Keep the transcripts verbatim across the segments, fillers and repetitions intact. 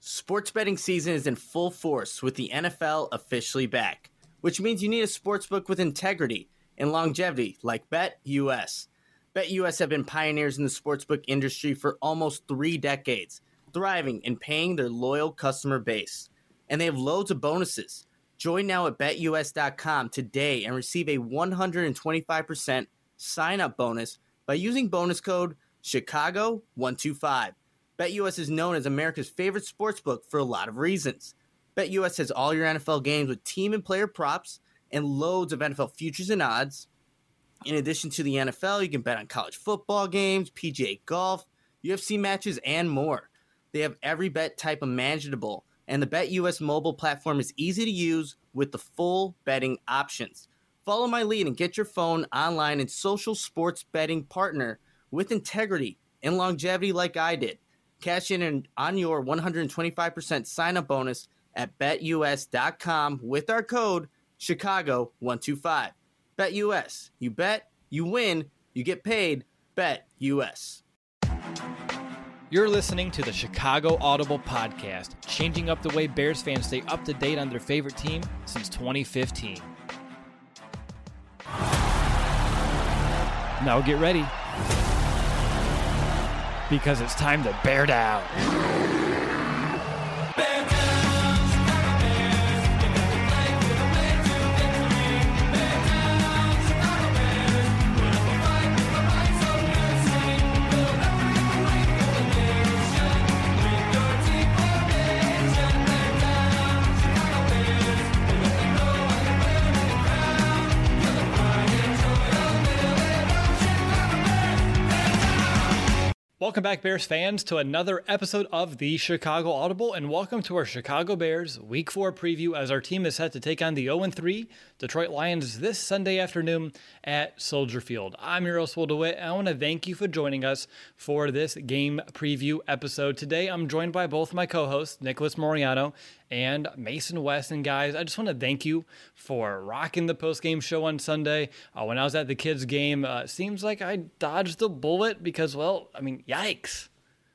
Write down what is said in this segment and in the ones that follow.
Sports betting season is in full force with the N F L officially back, which means you need a sportsbook with integrity and longevity like BetUS. BetUS have been pioneers in the sportsbook industry for almost three decades, thriving and paying their loyal customer base. And they have loads of bonuses. Join now at Bet U S dot com today and receive a one hundred twenty-five percent sign-up bonus by using bonus code Chicago one two five. BetUS is known as America's favorite sportsbook for a lot of reasons. BetUS has all your N F L games with team and player props and loads of N F L futures and odds. In addition to the N F L, you can bet on college football games, P G A golf, U F C matches, and more. They have every bet type imaginable, and the BetUS mobile platform is easy to use with the full betting options. Follow my lead and get your phone, online, and social sports betting partner with integrity and longevity like I did. Cash in on your one hundred twenty-five percent sign-up bonus at Bet U S dot com with our code Chicago one two five. BetUS. You bet, you win, you get paid. BetUS. You're listening to the Chicago Audible Podcast, changing up the way Bears fans stay up to date on their favorite team since twenty fifteen. Now get ready, because it's time to bear down. Welcome back, Bears fans, to another episode of the Chicago Audible, and welcome to our Chicago Bears Week four preview as our team is set to take on the oh and three Detroit Lions this Sunday afternoon at Soldier Field. I'm your host, Will DeWitt, and I want to thank you for joining us for this game preview episode. Today, I'm joined by both my co-hosts, Nicholas Moriano and Mason West. And guys, I just want to thank you for rocking the post-game show on Sunday. Uh, when I was at the kids' game, uh, it seems like I dodged a bullet because, well, I mean, yikes.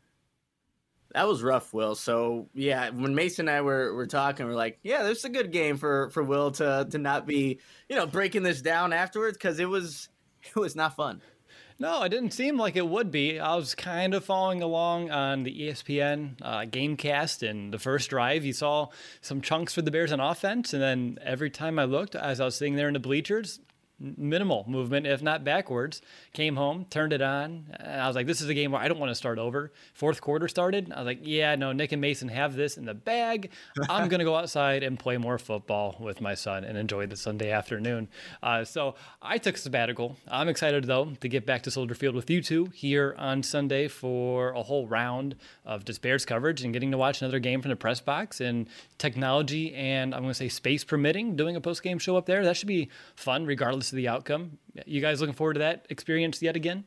That was rough, Will. So, yeah, when Mason and I were, were talking, we're like, yeah, this is a good game for, for Will to to not be, you know, breaking this down afterwards, because it was it was not fun. No, it didn't seem like it would be. I was kind of following along on the E S P N uh, Gamecast, and the first drive, you saw some chunks for the Bears on offense, and then every time I looked, as I was sitting there in the bleachers, minimal movement, if not backwards. Came home, turned it on, and I was like, this is a game where I don't want to start over. Fourth quarter started. I was like, yeah, no, Nick and Mason have this in the bag. I'm going to go outside and play more football with my son and enjoy the Sunday afternoon. Uh, so I took a sabbatical. I'm excited, though, to get back to Soldier Field with you two here on Sunday for a whole round of just Bears coverage and getting to watch another game from the press box, and technology and I'm going to say space permitting, doing a post-game show up there. That should be fun regardless of the outcome. You guys looking forward to that experience yet again?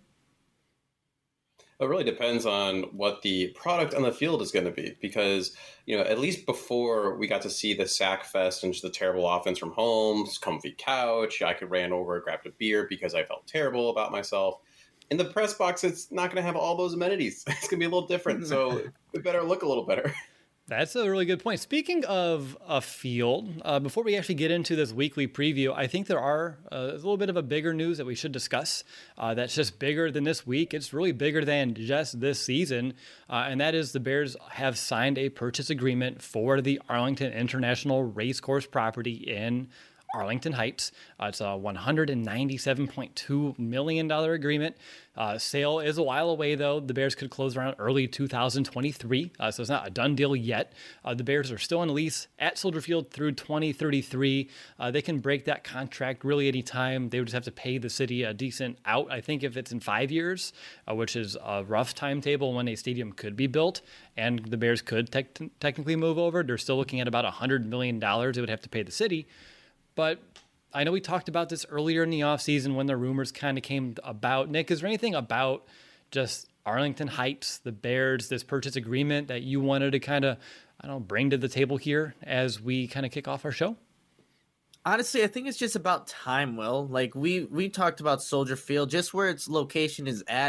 It really depends on what the product on the field is going to be, because, you know, at least before we got to see the sack fest and just the terrible offense from Holmes, comfy couch, I could ran over, grabbed a beer because I felt terrible about myself. In the press box, it's not going to have all those amenities. It's going to be a little different, so it better look a little better. That's a really good point. Speaking of a field, uh, before we actually get into this weekly preview, I think there are uh, a little bit of a bigger news that we should discuss uh, that's just bigger than this week. It's really bigger than just this season, uh, and that is the Bears have signed a purchase agreement for the Arlington International Racecourse property in Arlington Heights. Uh, it's a one hundred ninety-seven point two million dollars agreement. Uh, sale is a while away, though. The Bears could close around early two thousand twenty-three, uh, so it's not a done deal yet. Uh, the Bears are still on a lease at Soldier Field through twenty thirty-three. Uh, they can break that contract really any time. They would just have to pay the city a decent out, I think, if it's in five years, uh, which is a rough timetable when a stadium could be built, and the Bears could te- technically move over. They're still looking at about one hundred million dollars they would have to pay the city. But I know we talked about this earlier in the offseason when the rumors kind of came about. Nick, is there anything about just Arlington Heights, the Bears, this purchase agreement that you wanted to kind of, I don't know, bring to the table here as we kind of kick off our show? Honestly, I think it's just about time, Will. Like, we, we talked about Soldier Field, just where its location is at.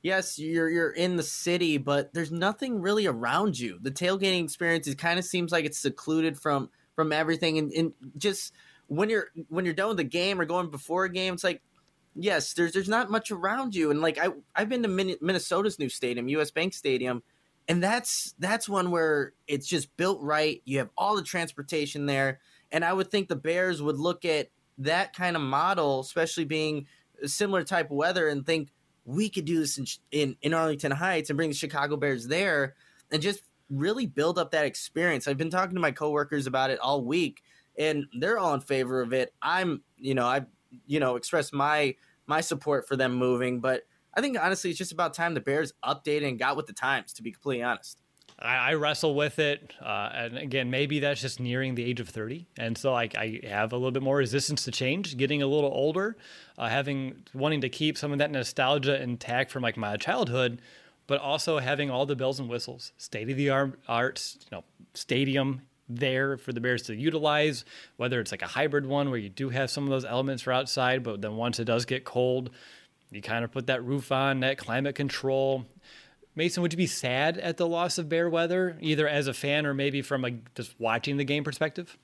yes, you're you're in the city, but there's nothing really around you. The tailgating experience, it kind of seems like it's secluded from from everything, and, and just when you're when you're done with the game or going before a game, it's like, yes, there's there's not much around you. And like I I've been to Min- Minnesota's new stadium, U S Bank Stadium, and that's that's one where it's just built right. You have all the transportation there, and I would think the Bears would look at that kind of model, especially being a similar type of weather, and think we could do this in, in in Arlington Heights and bring the Chicago Bears there and just really build up that experience. I've been talking to my coworkers about it all week, and they're all in favor of it. I'm, you know, I've, you know, expressed my my support for them moving, but I think honestly it's just about time the Bears updated and got with the times, to be completely honest. I, I wrestle with it, uh, and again, maybe that's just nearing the age of thirty, and so I, I have a little bit more resistance to change. Getting a little older, uh, having wanting to keep some of that nostalgia intact from like my childhood, but also having all the bells and whistles, state of the art, art, you know, stadium there for the Bears to utilize. Whether it's like a hybrid one where you do have some of those elements for outside, but then once it does get cold, you kind of put that roof on, that climate control. Mason, would you be sad at the loss of Bear weather, either as a fan or maybe from like just watching the game perspective?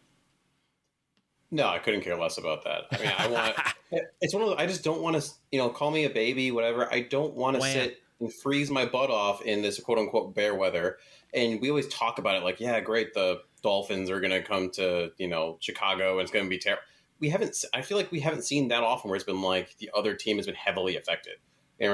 No, I couldn't care less about that. I mean, I want it's one of those, I just don't want to, you know, call me a baby, whatever. I don't want to sit and freeze my butt off in this quote unquote bear weather. And we always talk about it like, yeah, great, the Dolphins are going to come to, you know, Chicago and it's going to be terrible. We haven't, I feel like we haven't seen that often where it's been like the other team has been heavily affected. And,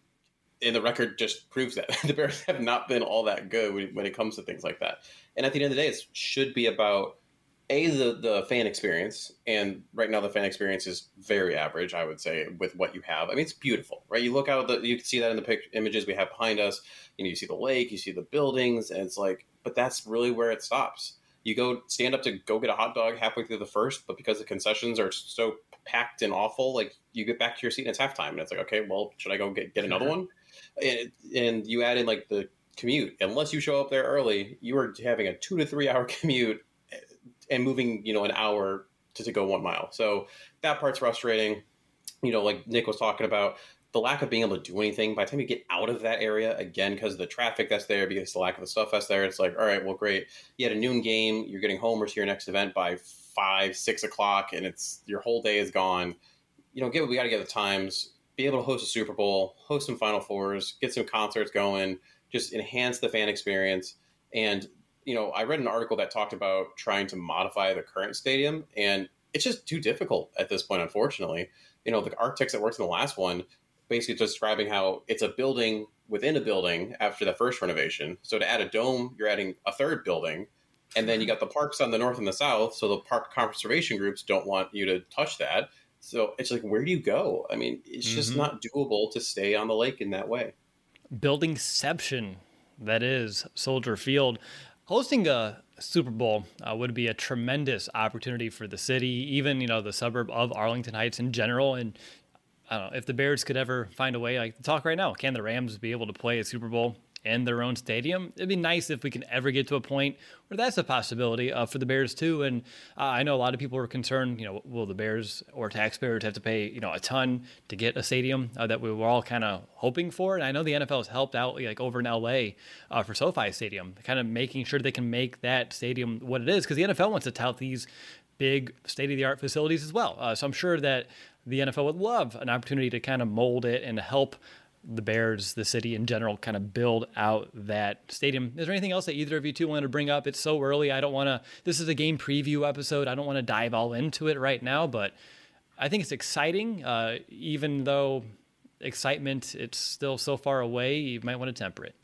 and the record just proves that the Bears have not been all that good when, when it comes to things like that. And at the end of the day, it should be about A, the, the fan experience. And right now the fan experience is very average, I would say, with what you have. I mean, it's beautiful, right? You look out, the, you can see that in the pic, images we have behind us. You know, you see the lake, you see the buildings, and it's like, but that's really where it stops. You go stand up to go get a hot dog halfway through the first, but because the concessions are so packed and awful, like you get back to your seat and it's halftime. And it's like, okay, well, should I go get, get another one? And, and you add in like the commute. Unless you show up there early, you are having a two to three hour commute and moving, you know, an hour to, to go one mile. So that part's frustrating. You know, like Nick was talking about, the lack of being able to do anything by the time you get out of that area, again, because of the traffic that's there, because the lack of the stuff that's there, it's like, all right, well, great. You had a noon game, you're getting home or to your next event by five, six o'clock, and it's your whole day is gone. You know, get we got to get the times, be able to host a Super Bowl, host some Final Fours, get some concerts going, just enhance the fan experience. And, you know, I read an article that talked about trying to modify the current stadium, and it's just too difficult at this point, unfortunately. You know, the architects that worked in the last one, basically describing how it's a building within a building after the first renovation. So to add a dome, you're adding a third building. And then you got the parks on the north and the south. So the park conservation groups don't want you to touch that. So it's like, where do you go? I mean, it's mm-hmm. just not doable to stay on the lake in that way. Buildingception, that is Soldier Field. Hosting a Super Bowl uh, would be a tremendous opportunity for the city, even, you know, the suburb of Arlington Heights in general. And I don't know if the Bears could ever find a way, like talk right now, can the Rams be able to play a Super Bowl in their own stadium? It'd be nice if we can ever get to a point where that's a possibility uh, for the Bears too. And uh, I know a lot of people are concerned, you know, will the Bears or taxpayers have to pay, you know, a ton to get a stadium uh, that we were all kind of hoping for? And I know the N F L has helped out, like over in L A uh, for SoFi Stadium, kind of making sure they can make that stadium what it is, because the N F L wants to tout these big state-of-the-art facilities as well. Uh, so I'm sure that the N F L would love an opportunity to kind of mold it and help the Bears, the city in general, kind of build out that stadium. Is there anything else that either of you two want to bring up? It's so early. I don't want to, this is a game preview episode. I don't want to dive all into it right now, but I think it's exciting. Uh, even though excitement, it's still so far away, you might want to temper it.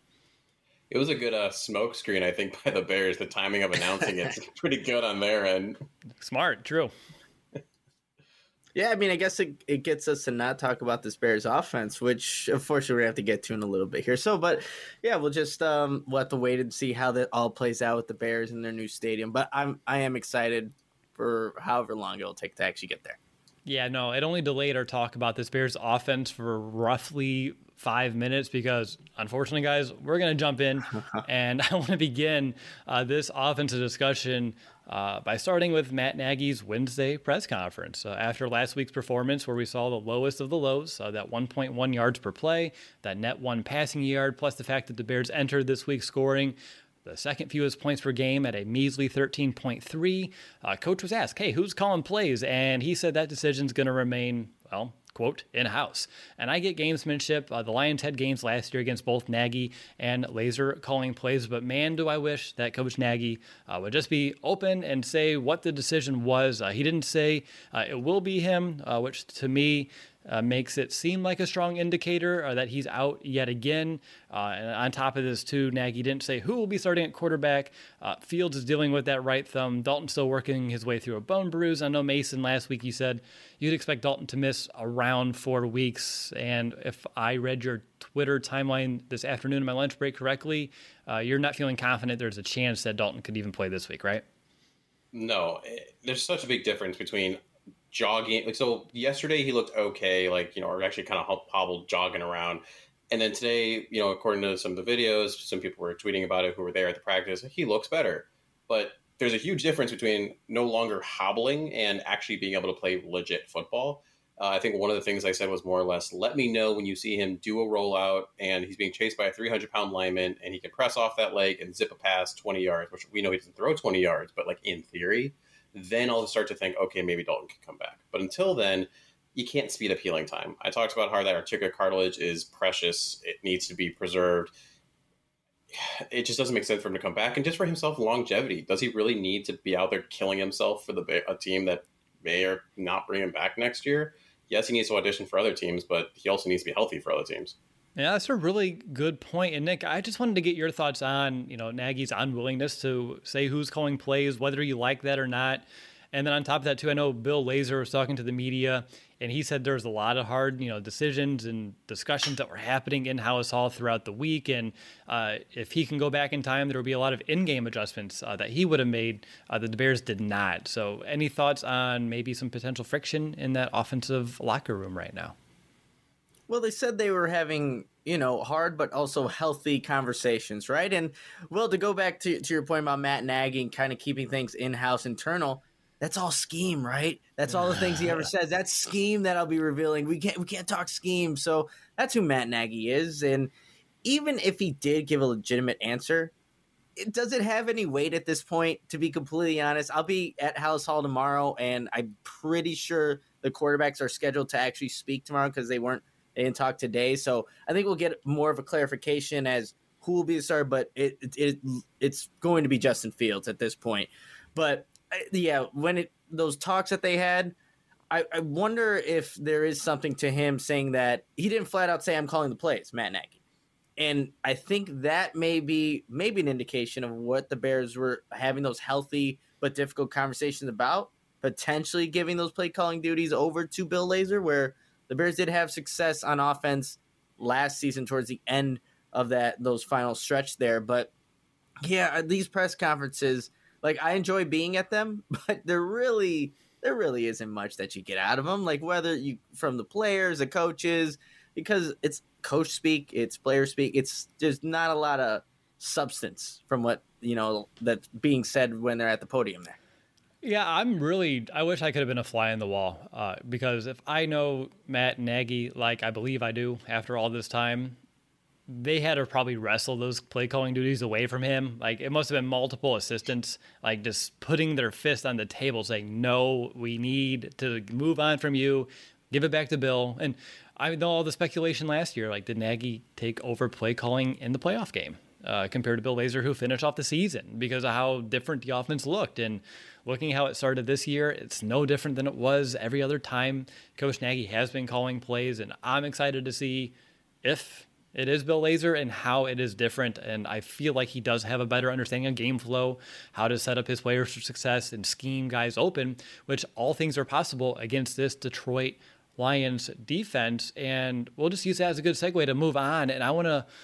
It was a good uh, smoke screen, I think, by the Bears. The timing of announcing it's pretty good on their end. Smart, true. Yeah, I mean, I guess it, it gets us to not talk about this Bears offense, which, unfortunately, we're going to have to get to in a little bit here. So, but, yeah, we'll just um, we'll have to wait and see how that all plays out with the Bears in their new stadium. But I'm, I am excited for however long it'll take to actually get there. Yeah, no, it only delayed our talk about this Bears offense for roughly five minutes because, unfortunately, guys, we're going to jump in. And I want to begin uh, this offensive discussion uh, by starting with Matt Nagy's Wednesday press conference. Uh, after last week's performance, where we saw the lowest of the lows, uh, that one point one yards per play, that net one passing yard, plus the fact that the Bears entered this week scoring the second fewest points per game at a measly thirteen point three. Uh, coach was asked, hey, who's calling plays? And he said that decision's going to remain, well, quote, in-house. And I get gamesmanship. Uh, the Lions had games last year against both Nagy and Lazor calling plays, but man, do I wish that Coach Nagy uh, would just be open and say what the decision was. Uh, he didn't say uh, it will be him, uh, which to me Uh, makes it seem like a strong indicator uh, that he's out yet again. Uh, and on top of this, too, Nagy didn't say who will be starting at quarterback. Uh, Fields is dealing with that right thumb. Dalton's still working his way through a bone bruise. I know, Mason, last week you said you'd expect Dalton to miss around four weeks. And if I read your Twitter timeline this afternoon in my lunch break correctly, uh, you're not feeling confident there's a chance that Dalton could even play this week, right? No, there's such a big difference between jogging. Like, so yesterday he looked okay, like, you know, or actually kind of hobbled jogging around. And then today, you know, according to some of the videos, some people were tweeting about it who were there at the practice, he looks better. But there's a huge difference between no longer hobbling and actually being able to play legit football. Uh, I think one of the things I said was more or less, let me know when you see him do a rollout and he's being chased by a three hundred pound lineman and he can press off that leg and zip a pass twenty yards, which we know he doesn't throw twenty yards, but like in theory, then I'll start to think, okay, maybe Dalton can come back. But until then, you can't speed up healing time. I talked about how that articular cartilage is precious. It needs to be preserved. It just doesn't make sense for him to come back. And just for himself, longevity. Does he really need to be out there killing himself for the a team that may or not bring him back next year? Yes, he needs to audition for other teams, but he also needs to be healthy for other teams. Yeah, that's a really good point. And Nick, I just wanted to get your thoughts on, you know, Nagy's unwillingness to say who's calling plays, whether you like that or not. And then on top of that, too, I know Bill Lazor was talking to the media, and he said there's a lot of hard, you know, decisions and discussions that were happening in-house all throughout the week. And uh, if he can go back in time, there will be a lot of in-game adjustments uh, that he would have made uh, that the Bears did not. So any thoughts on maybe some potential friction in that offensive locker room right now? Well, they said they were having, you know, hard but also healthy conversations, right? And, well, to go back to, to your point about Matt Nagy and kind of keeping things in-house internal, that's all scheme, right? That's all the things he ever says. That's scheme that I'll be revealing. We can't we can't talk scheme. So that's who Matt Nagy is. And even if he did give a legitimate answer, it, does it have any weight at this point, to be completely honest? I'll be at Hallis Hall tomorrow, and I'm pretty sure the quarterbacks are scheduled to actually speak tomorrow because they weren't They didn't talk today, so I think we'll get more of a clarification as who will be the starter, but it, it, it it's going to be Justin Fields at this point. But, yeah, when it those talks that they had, I, I wonder if there is something to him saying that he didn't flat out say, I'm calling the plays, Matt Nagy. And I think that may be maybe an indication of what the Bears were having those healthy but difficult conversations about, potentially giving those play-calling duties over to Bill Lazor, where the Bears did have success on offense last season towards the end of that those final stretch there. But, yeah, these press conferences, like, I enjoy being at them, but there really there really isn't much that you get out of them. Like, whether you from the players, the coaches, because it's coach speak, it's player speak. It's there's not a lot of substance from what, you know, that's being said when they're at the podium there. Yeah, I'm really, I wish I could have been a fly in the wall uh, because if I know Matt Nagy, like I believe I do after all this time, they had to probably wrestle those play calling duties away from him. Like, it must have been multiple assistants, like just putting their fist on the table saying, no, we need to move on from you, give it back to Bill. And I know all the speculation last year, like, did Nagy take over play calling in the playoff game uh, compared to Bill Lazor, who finished off the season because of how different the offense looked? And looking how it started this year, it's no different than it was every other time. Coach Nagy has been calling plays, and I'm excited to see if it is Bill Lazor and how it is different. And I feel like he does have a better understanding of game flow, how to set up his players for success and scheme guys open, which all things are possible against this Detroit Lions defense. And we'll just use that as a good segue to move on. And I want to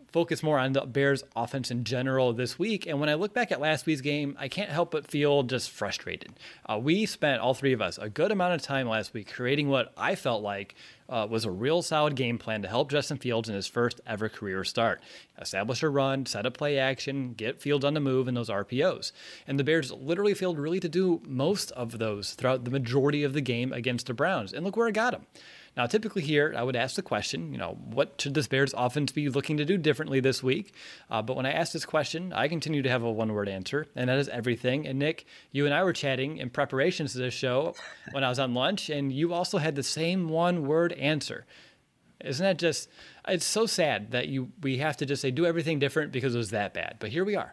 focus more on the Bears offense in general this week. And when I look back at last week's game, I can't help but feel just frustrated. Uh, we spent, all three of us, a good amount of time last week creating what I felt like uh, was a real solid game plan to help Justin Fields in his first ever career start. Establish a run, set up play action, get Fields on the move, and those R P Os. And the Bears literally failed really to do most of those throughout the majority of the game against the Browns. And look where it got them. Now, typically here, I would ask the question, you know, what should this Bears offense be looking to do differently this week? Uh, but when I ask this question, I continue to have a one-word answer, and that is everything. And Nick, you and I were chatting in preparations to this show when I was on lunch, and you also had the same one-word answer. Isn't that just, it's so sad that you we have to just say, do everything different because it was that bad. But here we are.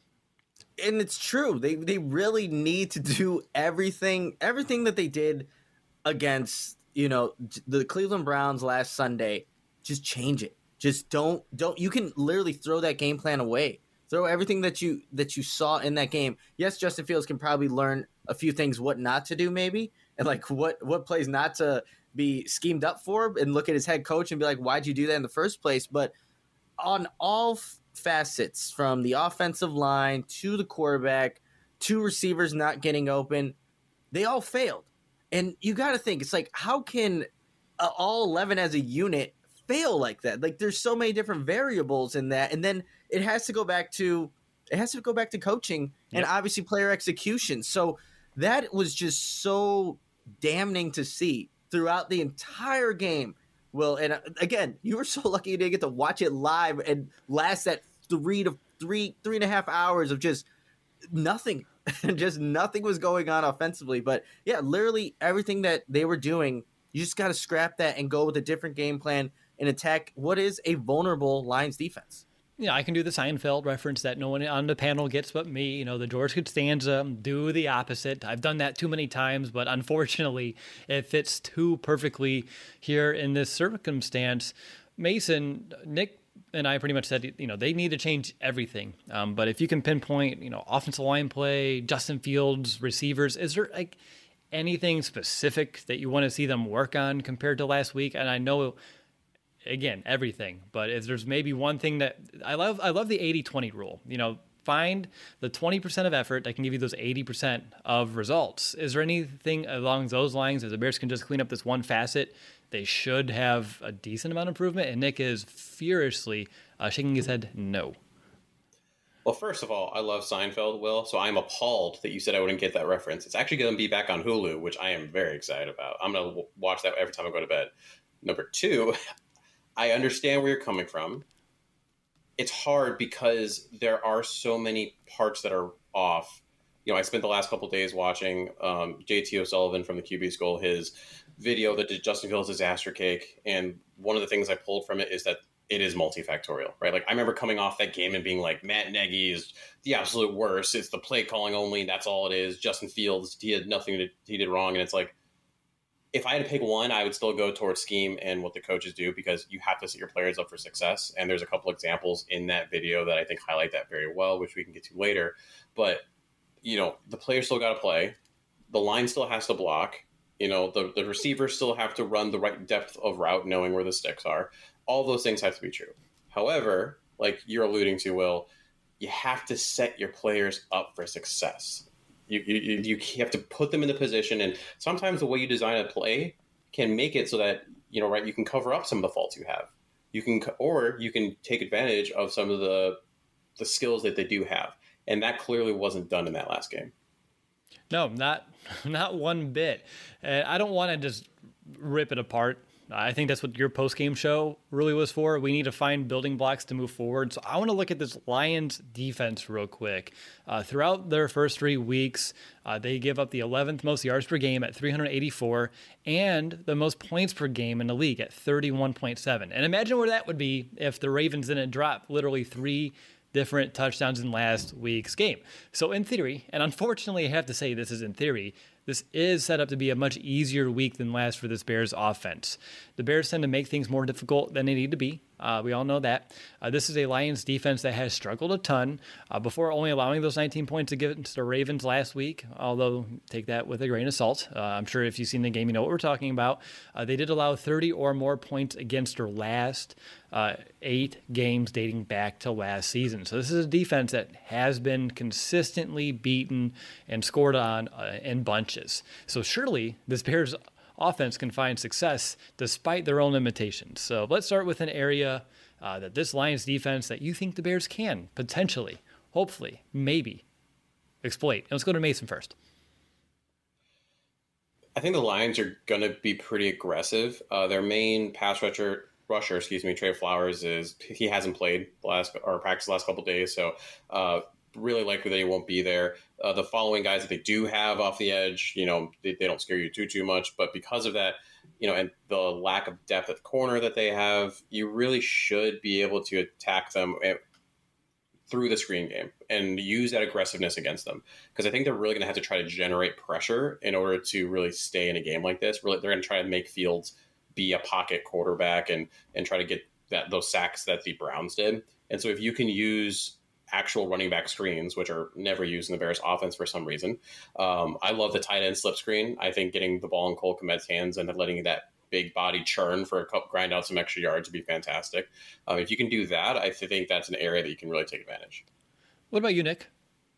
And it's true. They they really need to do everything, everything that they did against, you know, the Cleveland Browns last Sunday. Just change it. Just don't don't. You can literally throw that game plan away. Throw everything that you that you saw in that game. Yes, Justin Fields can probably learn a few things what not to do, maybe, and like what what plays not to be schemed up for, and look at his head coach and be like, why'd you do that in the first place? But on all f- facets, from the offensive line to the quarterback to receivers not getting open, they all failed. And you got to think, it's like, how can uh, all eleven as a unit fail like that? Like, there's so many different variables in that. And then it has to go back to, it has to go back to coaching and Yep. obviously player execution. So that was just so damning to see throughout the entire game. Well, and uh, again, you were so lucky you didn't get to watch it live and last that three to three, three and a half hours of just nothing. Just nothing was going on offensively. But yeah, literally everything that they were doing, you just got to scrap that and go with a different game plan and attack what is a vulnerable Lions defense. Yeah, I can do the Seinfeld reference that no one on the panel gets but me. You know, the George Costanza, do the opposite. I've done that too many times, but unfortunately, it fits too perfectly here in this circumstance. Mason, Nick and I pretty much said, you know, they need to change everything. Um, but if you can pinpoint, you know, offensive line play, Justin Fields, receivers, is there like anything specific that you want to see them work on compared to last week? And I know, again, everything, but if there's maybe one thing that I love, I love the eighty twenty rule. You know, find the twenty percent of effort that can give you those eighty percent of results. Is there anything along those lines, as the Bears can just clean up this one facet, they should have a decent amount of improvement? And Nick is furiously uh, shaking his head no. Well, first of all, I love Seinfeld, Will, so I'm appalled that you said I wouldn't get that reference. It's actually going to be back on Hulu, which I am very excited about. I'm going to watch that every time I go to bed. Number two, I understand where you're coming from. It's hard because there are so many parts that are off. You know, I spent the last couple of days watching um, J T O'Sullivan from the Q B School, his video that did Justin Fields' disaster cake. And one of the things I pulled from it is that it is multifactorial, right? Like, I remember coming off that game and being like, Matt Nagy is the absolute worst. It's the play calling only. That's all it is. Justin Fields, he had nothing to, he did wrong. And it's like, if I had to pick one, I would still go towards scheme and what the coaches do, because you have to set your players up for success. And there's a couple examples in that video that I think highlight that very well, which we can get to later. But, you know, the players still got to play. The line still has to block. You know, the, the receivers still have to run the right depth of route, knowing where the sticks are. All those things have to be true. However, like you're alluding to, Will, you have to set your players up for success. You, you you have to put them in the position, and sometimes the way you design a play can make it so that, you know, right, you can cover up some of the faults you have. You can, or you can take advantage of some of the the skills that they do have, and that clearly wasn't done in that last game. No, not not one bit. Uh, I don't want to just rip it apart. I think that's what your post-game show really was for. We need to find building blocks to move forward. So I want to look at this Lions defense real quick. Uh, throughout their first three weeks, uh, they give up the eleventh most yards per game at three hundred eighty-four and the most points per game in the league at thirty-one point seven. And imagine where that would be if the Ravens didn't drop literally three different touchdowns in last week's game. So in theory, and unfortunately I have to say this is in theory, this is set up to be a much easier week than last for this Bears offense. The Bears tend to make things more difficult than they need to be. Uh, we all know that. Uh, this is a Lions defense that has struggled a ton uh, before only allowing those nineteen points against the Ravens last week, although take that with a grain of salt. Uh, I'm sure if you've seen the game, you know what we're talking about. Uh, they did allow thirty or more points against their last uh, eight games dating back to last season. So this is a defense that has been consistently beaten and scored on uh, in bunches. So surely this Bears offense can find success despite their own limitations. So let's start with an area uh, that this Lions defense that you think the Bears can potentially, hopefully, maybe exploit. And let's go to Mason first. I think the Lions are going to be pretty aggressive. Uh, their main pass rusher, rusher, excuse me, Trey Flowers, is he hasn't played the last or practiced the last couple of days, so uh, really likely that he won't be there. Uh, the following guys that they do have off the edge, you know, they, they don't scare you too, too much. But because of that, you know, and the lack of depth at the corner that they have, you really should be able to attack them through the screen game and use that aggressiveness against them. Because I think they're really going to have to try to generate pressure in order to really stay in a game like this. Really, they're going to try to make Fields be a pocket quarterback and, and try to get that those sacks that the Browns did. And so if you can use actual running back screens, which are never used in the Bears offense for some reason. Um, I love the tight end slip screen. I think getting the ball in Cole Kmet's hands and then letting that big body churn for a couple, grind out some extra yards would be fantastic. Um, if you can do that, I think that's an area that you can really take advantage. What about you, Nick?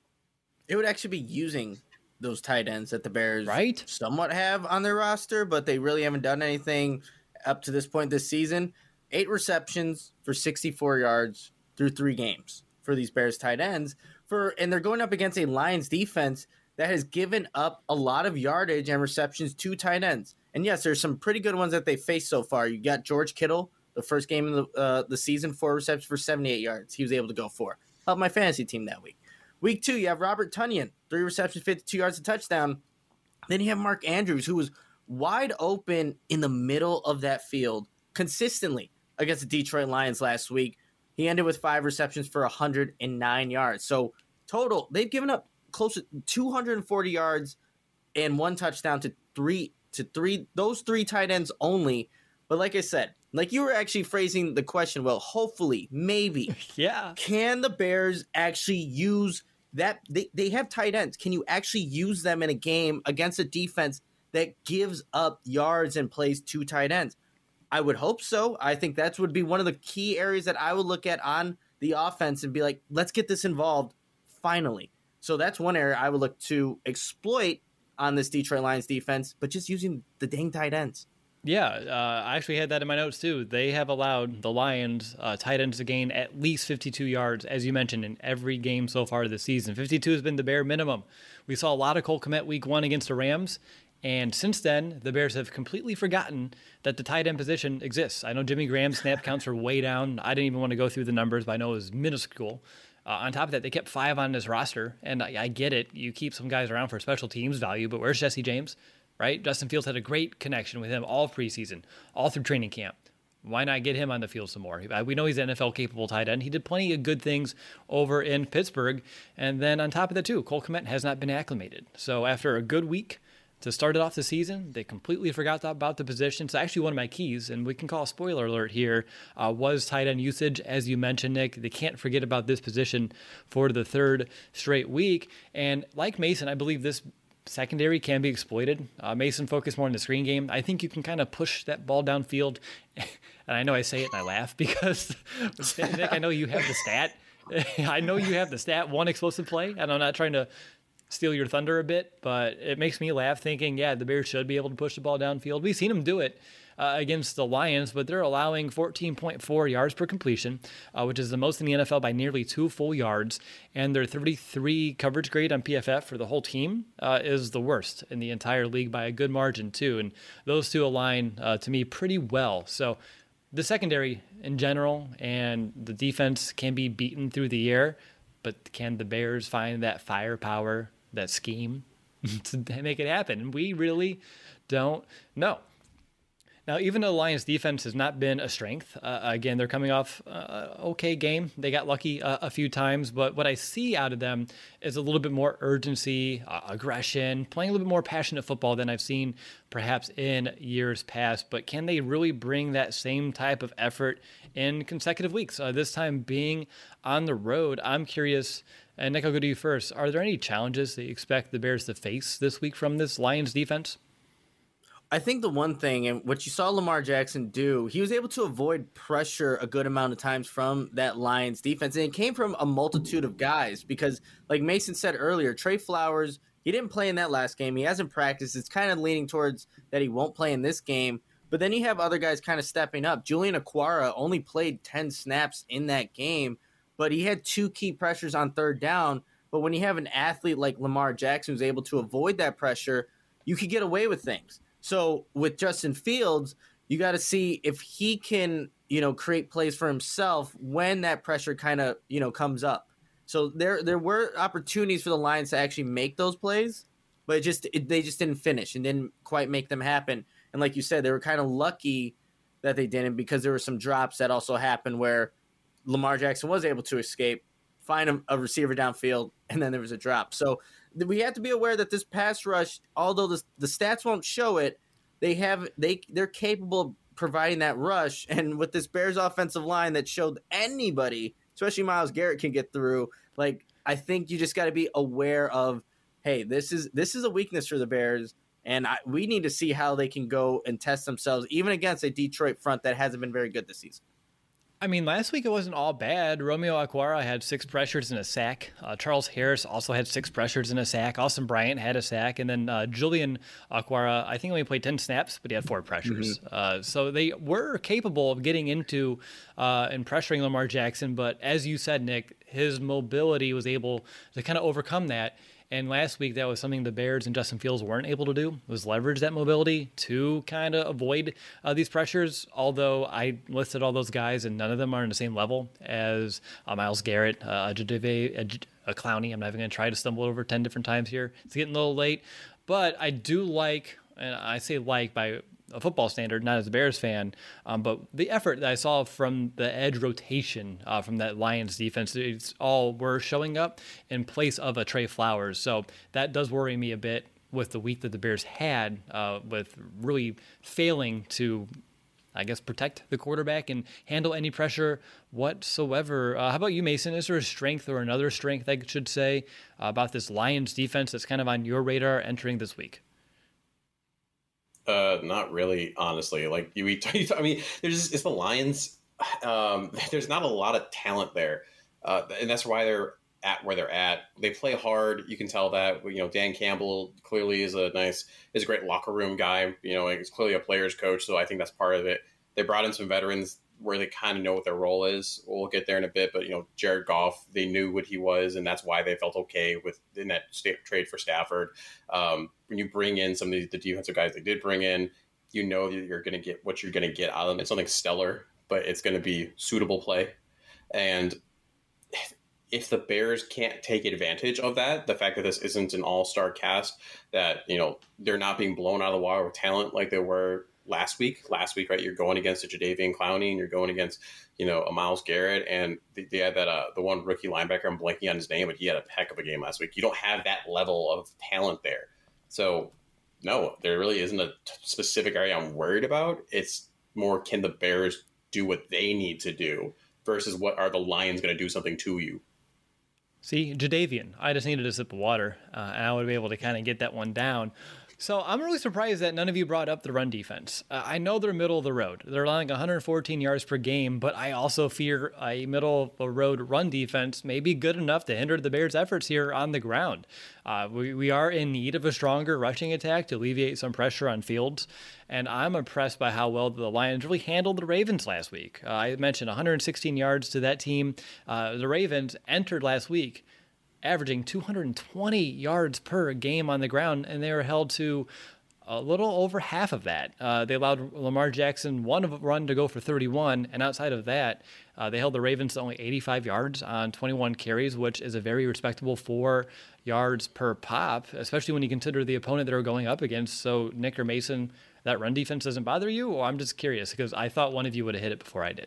It would actually be using those tight ends that the Bears right? somewhat have on their roster, but they really haven't done anything up to this point this season. Eight receptions for sixty-four yards through three games for these Bears tight ends, for and they're going up against a Lions defense that has given up a lot of yardage and receptions to tight ends. And yes, there's some pretty good ones that they faced so far. You got George Kittle, the first game of the, uh, the season, four receptions for seventy-eight yards. He was able to go for. Helped my fantasy team that week. Week two, you have Robert Tonyan, three receptions, fifty-two yards, a touchdown. Then you have Mark Andrews, who was wide open in the middle of that field consistently against the Detroit Lions last week. He ended with five receptions for one hundred nine yards. So total, they've given up close to two hundred forty yards and one touchdown to three to three those three tight ends only. But like I said, like you were actually phrasing the question, well, hopefully, maybe, yeah, can the Bears actually use that? They they have tight ends. Can you actually use them in a game against a defense that gives up yards and plays two tight ends? I would hope so. I think that would be one of the key areas that I would look at on the offense and be like, let's get this involved finally. So that's one area I would look to exploit on this Detroit Lions defense, but just using the dang tight ends. Yeah, uh, I actually had that in my notes too. They have allowed the Lions uh, tight ends to gain at least fifty-two yards, as you mentioned, in every game so far this season. fifty-two has been the bare minimum. We saw a lot of Cole Kmet week one against the Rams. And since then, the Bears have completely forgotten that the tight end position exists. I know Jimmy Graham's snap counts are way down. I didn't even want to go through the numbers, but I know it was minuscule. Uh, on top of that, they kept five on this roster. And I, I get it. You keep some guys around for special teams value, but where's Jesse James, right? Justin Fields had a great connection with him all preseason, all through training camp. Why not get him on the field some more? We know he's an N F L-capable tight end. He did plenty of good things over in Pittsburgh. And then on top of that, too, Cole Kmet has not been acclimated. So after a good week to start it off the season, they completely forgot about the position. So actually one of my keys, and we can call a spoiler alert here, uh, was tight end usage. As you mentioned, Nick, they can't forget about this position for the third straight week. And like Mason, I believe this secondary can be exploited. Uh, Mason focused more on the screen game. I think you can kind of push that ball downfield. And I know I say it and I laugh because, Nick, I know you have the stat. I know you have the stat, one explosive play, and I'm not trying to steal your thunder a bit, but it makes me laugh thinking, yeah, the Bears should be able to push the ball downfield. We've seen them do it uh, against the Lions, but they're allowing fourteen point four yards per completion, uh, which is the most in the N F L by nearly two full yards, and their thirty-three coverage grade on P F F for the whole team uh, is the worst in the entire league by a good margin, too, and those two align uh, to me pretty well. So the secondary in general and the defense can be beaten through the air, but can the Bears find that firepower, that scheme to make it happen? And we really don't know. Now, even though the Lions defense has not been a strength, uh, again, they're coming off uh, okay game. They got lucky uh, a few times, but what I see out of them is a little bit more urgency, uh, aggression, playing a little bit more passionate football than I've seen perhaps in years past. But can they really bring that same type of effort in consecutive weeks? Uh, this time being on the road, I'm curious, and Nick, I'll go to you first. Are there any challenges that you expect the Bears to face this week from this Lions defense? I think the one thing, and what you saw Lamar Jackson do, he was able to avoid pressure a good amount of times from that Lions defense. And it came from a multitude of guys because, like Mason said earlier, Trey Flowers, he didn't play in that last game. He hasn't practiced. It's kind of leaning towards that he won't play in this game. But then you have other guys kind of stepping up. Julian Okwara only played ten snaps in that game, but he had two key pressures on third down. But when you have an athlete like Lamar Jackson who's able to avoid that pressure, you could get away with things. So with Justin Fields, you got to see if he can, you know, create plays for himself when that pressure kind of, you know, comes up. So there there were opportunities for the Lions to actually make those plays, but it just it, they just didn't finish and didn't quite make them happen. And like you said, they were kind of lucky that they didn't because there were some drops that also happened where Lamar Jackson was able to escape, find a, a receiver downfield, and then there was a drop. So we have to be aware that this pass rush, although the, the stats won't show it, they have they they're capable of providing that rush. And with this Bears offensive line that showed anybody, especially Myles Garrett, can get through. Like I think you just got to be aware of, hey, this is this is a weakness for the Bears, and I, we need to see how they can go and test themselves, even against a Detroit front that hasn't been very good this season. I mean, last week it wasn't all bad. Romeo Okwara had six pressures and a sack. Uh, Charles Harris also had six pressures and a sack. Austin Bryant had a sack. And then uh, Julian Okwara, I think only played ten snaps, but he had four pressures. Mm-hmm. Uh, so they were capable of getting into uh, and pressuring Lamar Jackson. But as you said, Nick, his mobility was able to kind of overcome that. And last week, that was something the Bears and Justin Fields weren't able to do, was leverage that mobility to kind of avoid uh, these pressures. Although I listed all those guys, and none of them are on the same level as uh, Myles Garrett, uh, Jadeveon Clowney. I'm not even going to try to stumble over ten different times here. It's getting a little late. But I do like, and I say like by a football standard, not as a Bears fan, um, but the effort that I saw from the edge rotation uh, from that Lions defense, it's all were showing up in place of a Trey Flowers. So that does worry me a bit with the week that the Bears had uh, with really failing to, I guess, protect the quarterback and handle any pressure whatsoever. Uh, how about you, Mason? Is there a strength or another strength, I should say, uh, about this Lions defense that's kind of on your radar entering this week? Uh, not really, honestly. Like you, I mean, there's it's the Lions. Um, there's not a lot of talent there, uh, and that's why they're at where they're at. They play hard. You can tell that. You know, Dan Campbell clearly is a nice, is a great locker room guy. You know, he's clearly a player's coach, so I think that's part of it. They brought in some veterans where they kind of know what their role is. We'll get there in a bit, but you know, Jared Goff, they knew what he was, and that's why they felt okay with in that state trade for Stafford. Um, when you bring in some of the, the defensive guys they did bring in, you know that you're going to get what you're going to get out of them. It's something stellar, but it's going to be suitable play. And if the Bears can't take advantage of that, the fact that this isn't an all-star cast, that you know they're not being blown out of the water with talent like they were last week. Last week, right? You're going against a Jadeveon Clowney, and you're going against, you know, a Myles Garrett, and they, they had that uh, the one rookie linebacker. I'm blanking on his name, but he had a heck of a game last week. You don't have that level of talent there, so no, there really isn't a t- specific area I'm worried about. It's more, can the Bears do what they need to do versus what are the Lions going to do something to you? See, Jadeveon, I just needed a sip of water, uh, and I would be able to kind of get that one down. So I'm really surprised that none of you brought up the run defense. Uh, I know they're middle of the road. They're allowing one hundred fourteen yards per game, but I also fear a middle of the road run defense may be good enough to hinder the Bears' efforts here on the ground. Uh, we, we are in need of a stronger rushing attack to alleviate some pressure on Fields, and I'm impressed by how well the Lions really handled the Ravens last week. Uh, I mentioned one hundred sixteen yards to that team. Uh, the Ravens entered last week averaging two hundred twenty yards per game on the ground, and they were held to a little over half of that. Uh, they allowed Lamar Jackson one run to go for thirty-one, and outside of that, uh, they held the Ravens to only eighty-five yards on twenty-one carries, which is a very respectable four yards per pop, especially when you consider the opponent they were going up against. So, Nick or Mason, that run defense doesn't bother you? Or I'm just curious because I thought one of you would have hit it before I did.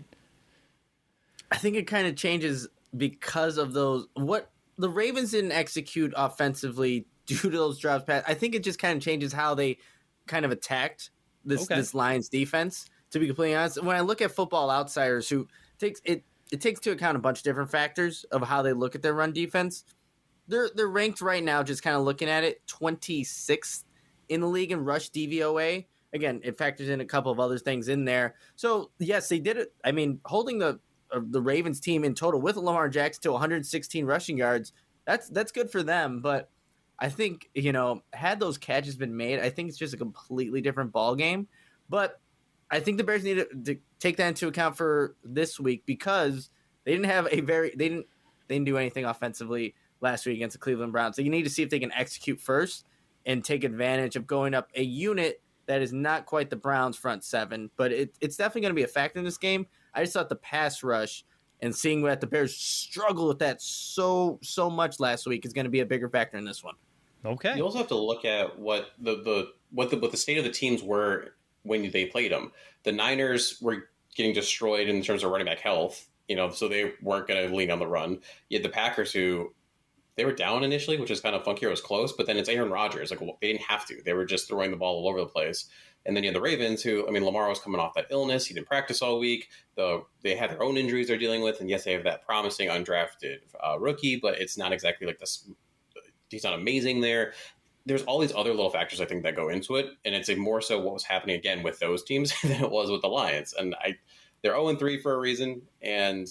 I think it kind of changes because of those. What the Ravens didn't execute offensively due to those drops pass. I think it just kind of changes how they kind of attacked this Okay. this Lions defense. To be completely honest, when I look at Football Outsiders, who takes it, it takes into account a bunch of different factors of how they look at their run defense. They're they're ranked right now, just kind of looking at it, twenty-sixth in the league in rush D V O A. Again, it factors in a couple of other things in there. So yes, they did it. I mean, holding the uh, the Ravens team in total with Lamar Jackson to one hundred sixteen rushing yards, that's that's good for them. But I think, you know, had those catches been made, I think it's just a completely different ball game. But I think the Bears need to, to take that into account for this week because they didn't have a very they didn't they didn't do anything offensively last week against the Cleveland Browns. So you need to see if they can execute first and take advantage of going up a unit that is not quite the Browns front seven, but it, it's definitely going to be a factor in this game. I just thought the pass rush and seeing that the Bears struggle with that so so much last week is going to be a bigger factor in this one. Okay. You also have to look at what the, the what the what the state of the teams were when they played them. The Niners were getting destroyed in terms of running back health, you know, so they weren't going to lean on the run. You had the Packers who they were down initially, which is kind of funky. It was close, but then it's Aaron Rodgers. Like well, they didn't have to; they were just throwing the ball all over the place. And then you had the Ravens, who I mean, Lamar was coming off that illness; he didn't practice all week. The they had their own injuries they're dealing with, and yes, they have that promising undrafted uh, rookie, but it's not exactly like this. He's not amazing there. There's all these other little factors I think that go into it, and it's a more so what was happening again with those teams than it was with the Lions. And I, they're oh and three for a reason, and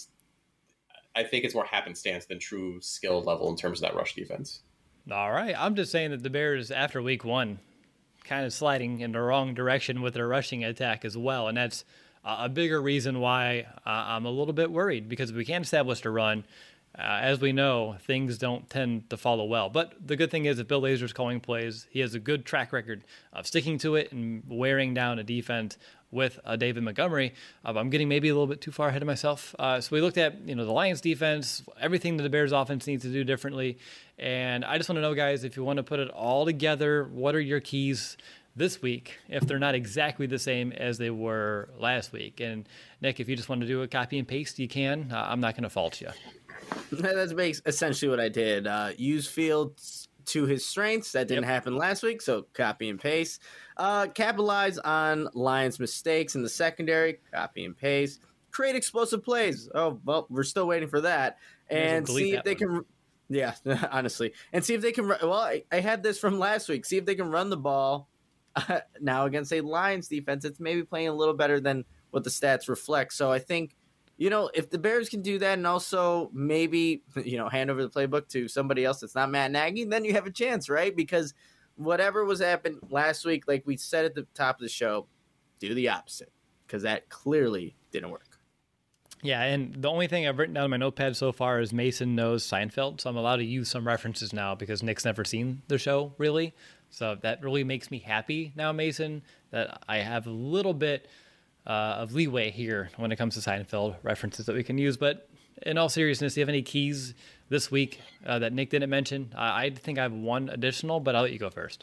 I think it's more happenstance than true skill level in terms of that rush defense. All right. I'm just saying that the Bears, after week one, kind of sliding in the wrong direction with their rushing attack as well. And that's a bigger reason why uh, I'm a little bit worried because if we can't establish a run, uh, as we know, things don't tend to follow well. But the good thing is that Bill Lazor's calling plays. He has a good track record of sticking to it and wearing down a defense with uh, David Montgomery. Uh, I'm getting maybe a little bit too far ahead of myself. Uh, so we looked at, you know, the Lions defense, everything that the Bears offense needs to do differently. And I just want to know, guys, if you want to put it all together, what are your keys this week if they're not exactly the same as they were last week? And Nick, if you just want to do a copy and paste, you can. Uh, I'm not going to fault you. That's essentially what I did. Uh, use Fields to his strengths. That didn't Yep. happen last week, so copy and paste. Uh, capitalize on Lions' mistakes in the secondary. Copy and paste. Create explosive plays. Oh, well, we're still waiting for that. And delete see that if they one. can... Yeah, honestly. And see if they can... Well, I, I had this from last week. See if they can run the ball uh, now against a Lions defense. It's maybe playing a little better than what the stats reflect. So I think... You know, if the Bears can do that and also maybe, you know, hand over the playbook to somebody else that's not Matt Nagy, then you have a chance, right? Because whatever was happened last week, like we said at the top of the show, do the opposite because that clearly didn't work. Yeah, and the only thing I've written down in my notepad so far is Mason knows Seinfeld, so I'm allowed to use some references now because Nick's never seen the show, really. So that really makes me happy now, Mason, that I have a little bit uh, of leeway here when it comes to Seinfeld references that we can use. But in all seriousness, do you have any keys this week uh, that Nick didn't mention? Uh, I think I have one additional, but I'll let you go first.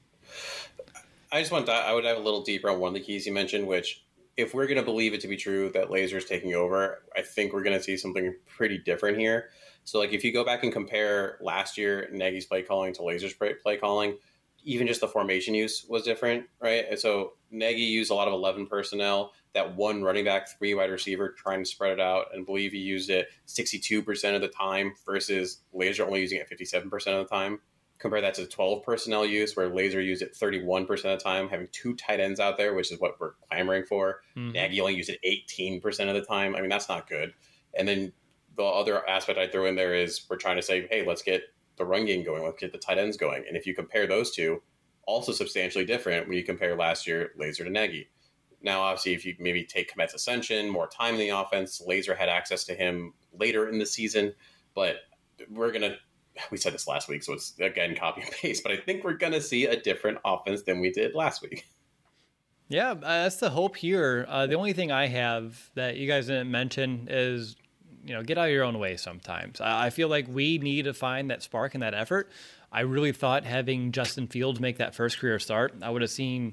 I just want to, I would dive a little deeper on one of the keys you mentioned, which if we're going to believe it to be true that Lazor's taking over, I think we're going to see something pretty different here. So like if you go back and compare last year, Nagy's play calling to Lazor's play calling, even just the formation use was different, right? And so Nagy used a lot of eleven personnel, that one running back, three wide receiver, trying to spread it out, and believe he used it sixty-two percent of the time versus Lazor only using it fifty-seven percent of the time. Compare that to the twelve personnel use, where Lazor used it thirty-one percent of the time, having two tight ends out there, which is what we're clamoring for. Mm-hmm. Nagy only used it eighteen percent of the time. I mean, that's not good. And then the other aspect I throw in there is we're trying to say, hey, let's get the run game going. Let's get the tight ends going. And if you compare those two, also substantially different when you compare last year Lazor to Nagy. Now, obviously, if you maybe take Kmet's ascension, more time in the offense, Lazor had access to him later in the season. But we're going to, we said this last week, so it's, again, copy and paste. But I think we're going to see a different offense than we did last week. Yeah, uh, that's the hope here. Uh, the only thing I have that you guys didn't mention is, you know, get out of your own way sometimes. I feel like we need to find that spark and that effort. I really thought having Justin Fields make that first career start, I would have seen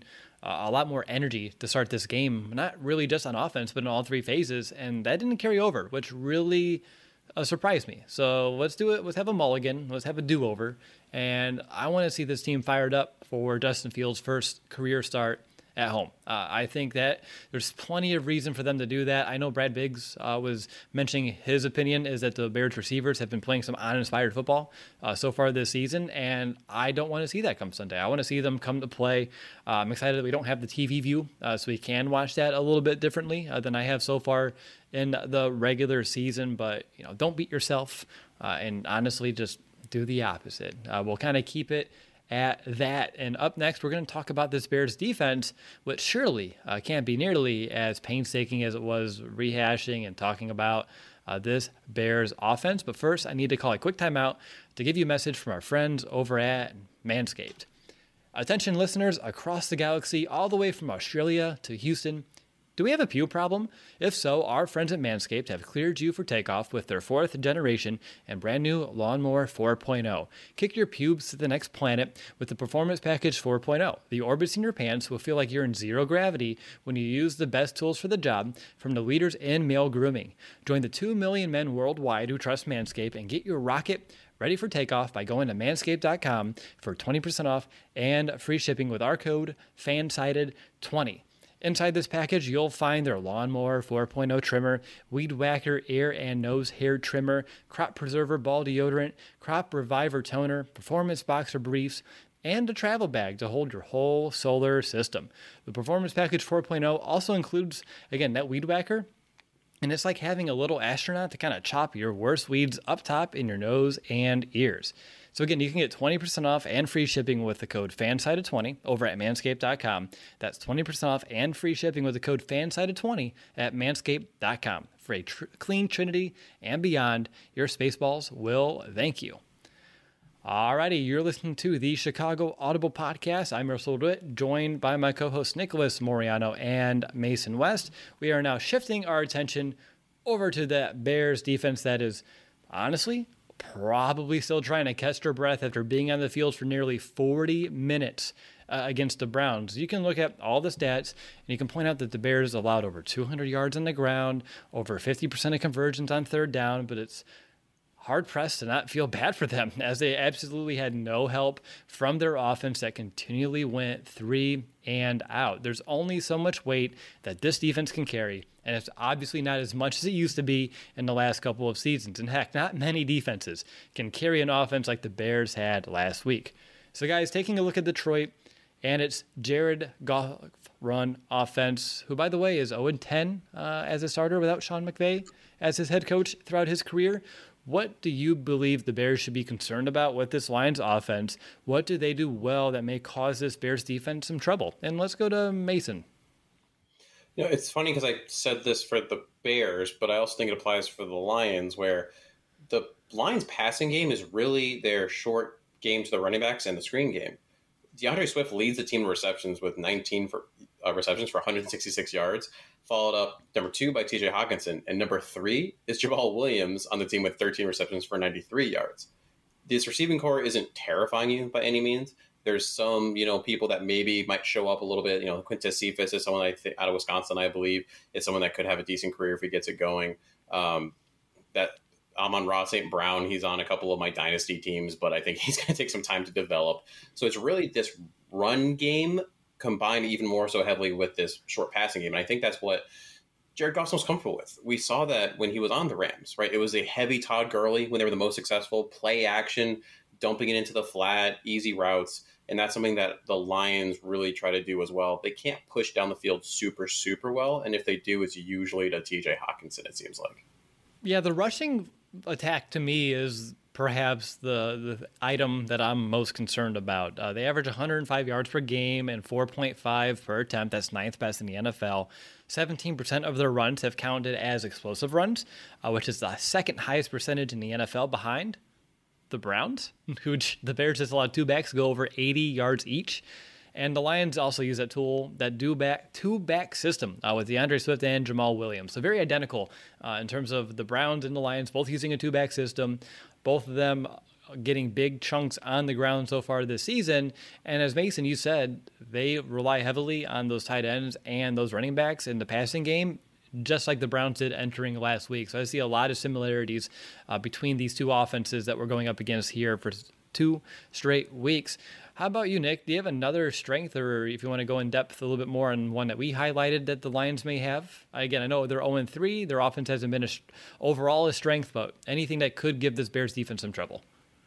uh, a lot more energy to start this game, not really just on offense, but in all three phases. And that didn't carry over, which really uh, surprised me. So let's do it. Let's have a mulligan. Let's have a do-over. And I want to see this team fired up for Justin Fields' first career start at home. Uh, I think that there's plenty of reason for them to do that. I know Brad Biggs uh, was mentioning his opinion is that the Bears receivers have been playing some uninspired football uh, so far this season, and I don't want to see that come Sunday. I want to see them come to play. Uh, I'm excited that we don't have the T V view, uh, so we can watch that a little bit differently uh, than I have so far in the regular season. But you know, don't beat yourself, uh, and honestly, just do the opposite. Uh, we'll kind of keep it at that. And up next, we're going to talk about this Bears defense, which surely uh, can't be nearly as painstaking as it was rehashing and talking about uh, this Bears offense. But first, I need to call a quick timeout to give you a message from our friends over at Manscaped. Attention listeners across the galaxy, all the way from Australia to Houston. Do we have a pube problem? If so, our friends at Manscaped have cleared you for takeoff with their fourth generation and brand new Lawnmower four point oh. Kick your pubes to the next planet with the Performance Package four point oh. The orbits in your pants will feel like you're in zero gravity when you use the best tools for the job from the leaders in male grooming. Join the two million men worldwide who trust Manscaped and get your rocket ready for takeoff by going to manscaped dot com for twenty percent off and free shipping with our code FANSIDED twenty. Inside this package, you'll find their Lawnmower four point oh trimmer, Weed Whacker ear and nose hair trimmer, Crop Preserver ball deodorant, Crop Reviver toner, Performance Boxer briefs, and a travel bag to hold your whole solar system. The Performance Package four point oh also includes, again, that Weed Whacker, and it's like having a little astronaut to kind of chop your worst weeds up top in your nose and ears. So again, you can get twenty percent off and free shipping with the code FANSIDED twenty over at manscaped dot com. That's twenty percent off and free shipping with the code FANSIDED twenty at manscaped dot com. For a tr- clean trinity and beyond, your Spaceballs will thank you. Alrighty, you're listening to the Chicago Audible Podcast. I'm Russell DeWitt, joined by my co-hosts Nicholas Moriano and Mason West. We are now shifting our attention over to that Bears defense that is, honestly, probably still trying to catch their breath after being on the field for nearly forty minutes uh, against the Browns. You can look at all the stats, and you can point out that the Bears allowed over two hundred yards on the ground, over fifty percent of conversions on third down, but it's hard-pressed to not feel bad for them, as they absolutely had no help from their offense that continually went three and out. There's only so much weight that this defense can carry, and it's obviously not as much as it used to be in the last couple of seasons. In heck, not many defenses can carry an offense like the Bears had last week. So guys, taking a look at Detroit, and it's Jared Goff run offense, who, by the way, is oh and ten uh, as a starter without Sean McVay as his head coach throughout his career. What do you believe the Bears should be concerned about with this Lions offense? What do they do well that may cause this Bears defense some trouble? And let's go to Mason. You know, it's funny because I said this for the Bears, but I also think it applies for the Lions, where the Lions passing game is really their short game to the running backs and the screen game. DeAndre Swift leads the team in receptions with nineteen for, uh, receptions for one hundred sixty-six yards, followed up number two by T J Hawkinson, and number three is Jamal Williams on the team with thirteen receptions for ninety-three yards. This receiving core isn't terrifying you by any means. There's some, you know, people that maybe might show up a little bit. You know, Quintez Cephas is someone I think out of Wisconsin, I believe, is someone that could have a decent career if he gets it going. Um, that Amon-Ra Saint Brown, he's on a couple of my dynasty teams, but I think he's going to take some time to develop. So it's really this run game combined even more so heavily with this short passing game. And I think that's what Jared Goff's most comfortable with. We saw that when he was on the Rams, right? It was a heavy Todd Gurley when they were the most successful, play action, dumping it into the flat, easy routes. And that's something that the Lions really try to do as well. They can't push down the field super, super well. And if they do, it's usually to T J Hawkinson, it seems like. Yeah, the rushing attack to me is perhaps the, the item that I'm most concerned about. Uh, they average one hundred five yards per game and four point five per attempt. That's ninth best in the N F L. seventeen percent of their runs have counted as explosive runs, uh, which is the second highest percentage in the N F L behind the Browns, who the Bears just allowed two backs to go over eighty yards each. And the Lions also use that tool, that do back two back system uh, with DeAndre Swift and Jamal Williams. So very identical uh, in terms of the Browns and the Lions, both using a two back system. Both of them getting big chunks on the ground so far this season. And as Mason, you said, they rely heavily on those tight ends and those running backs in the passing game, just like the Browns did entering last week. So I see a lot of similarities uh, between these two offenses that we're going up against here for two straight weeks. How about you, Nick? Do you have another strength, or if you want to go in depth a little bit more on one that we highlighted that the Lions may have? Again, I know they're oh and three. Their offense hasn't been a, overall a strength, but anything that could give this Bears defense some trouble?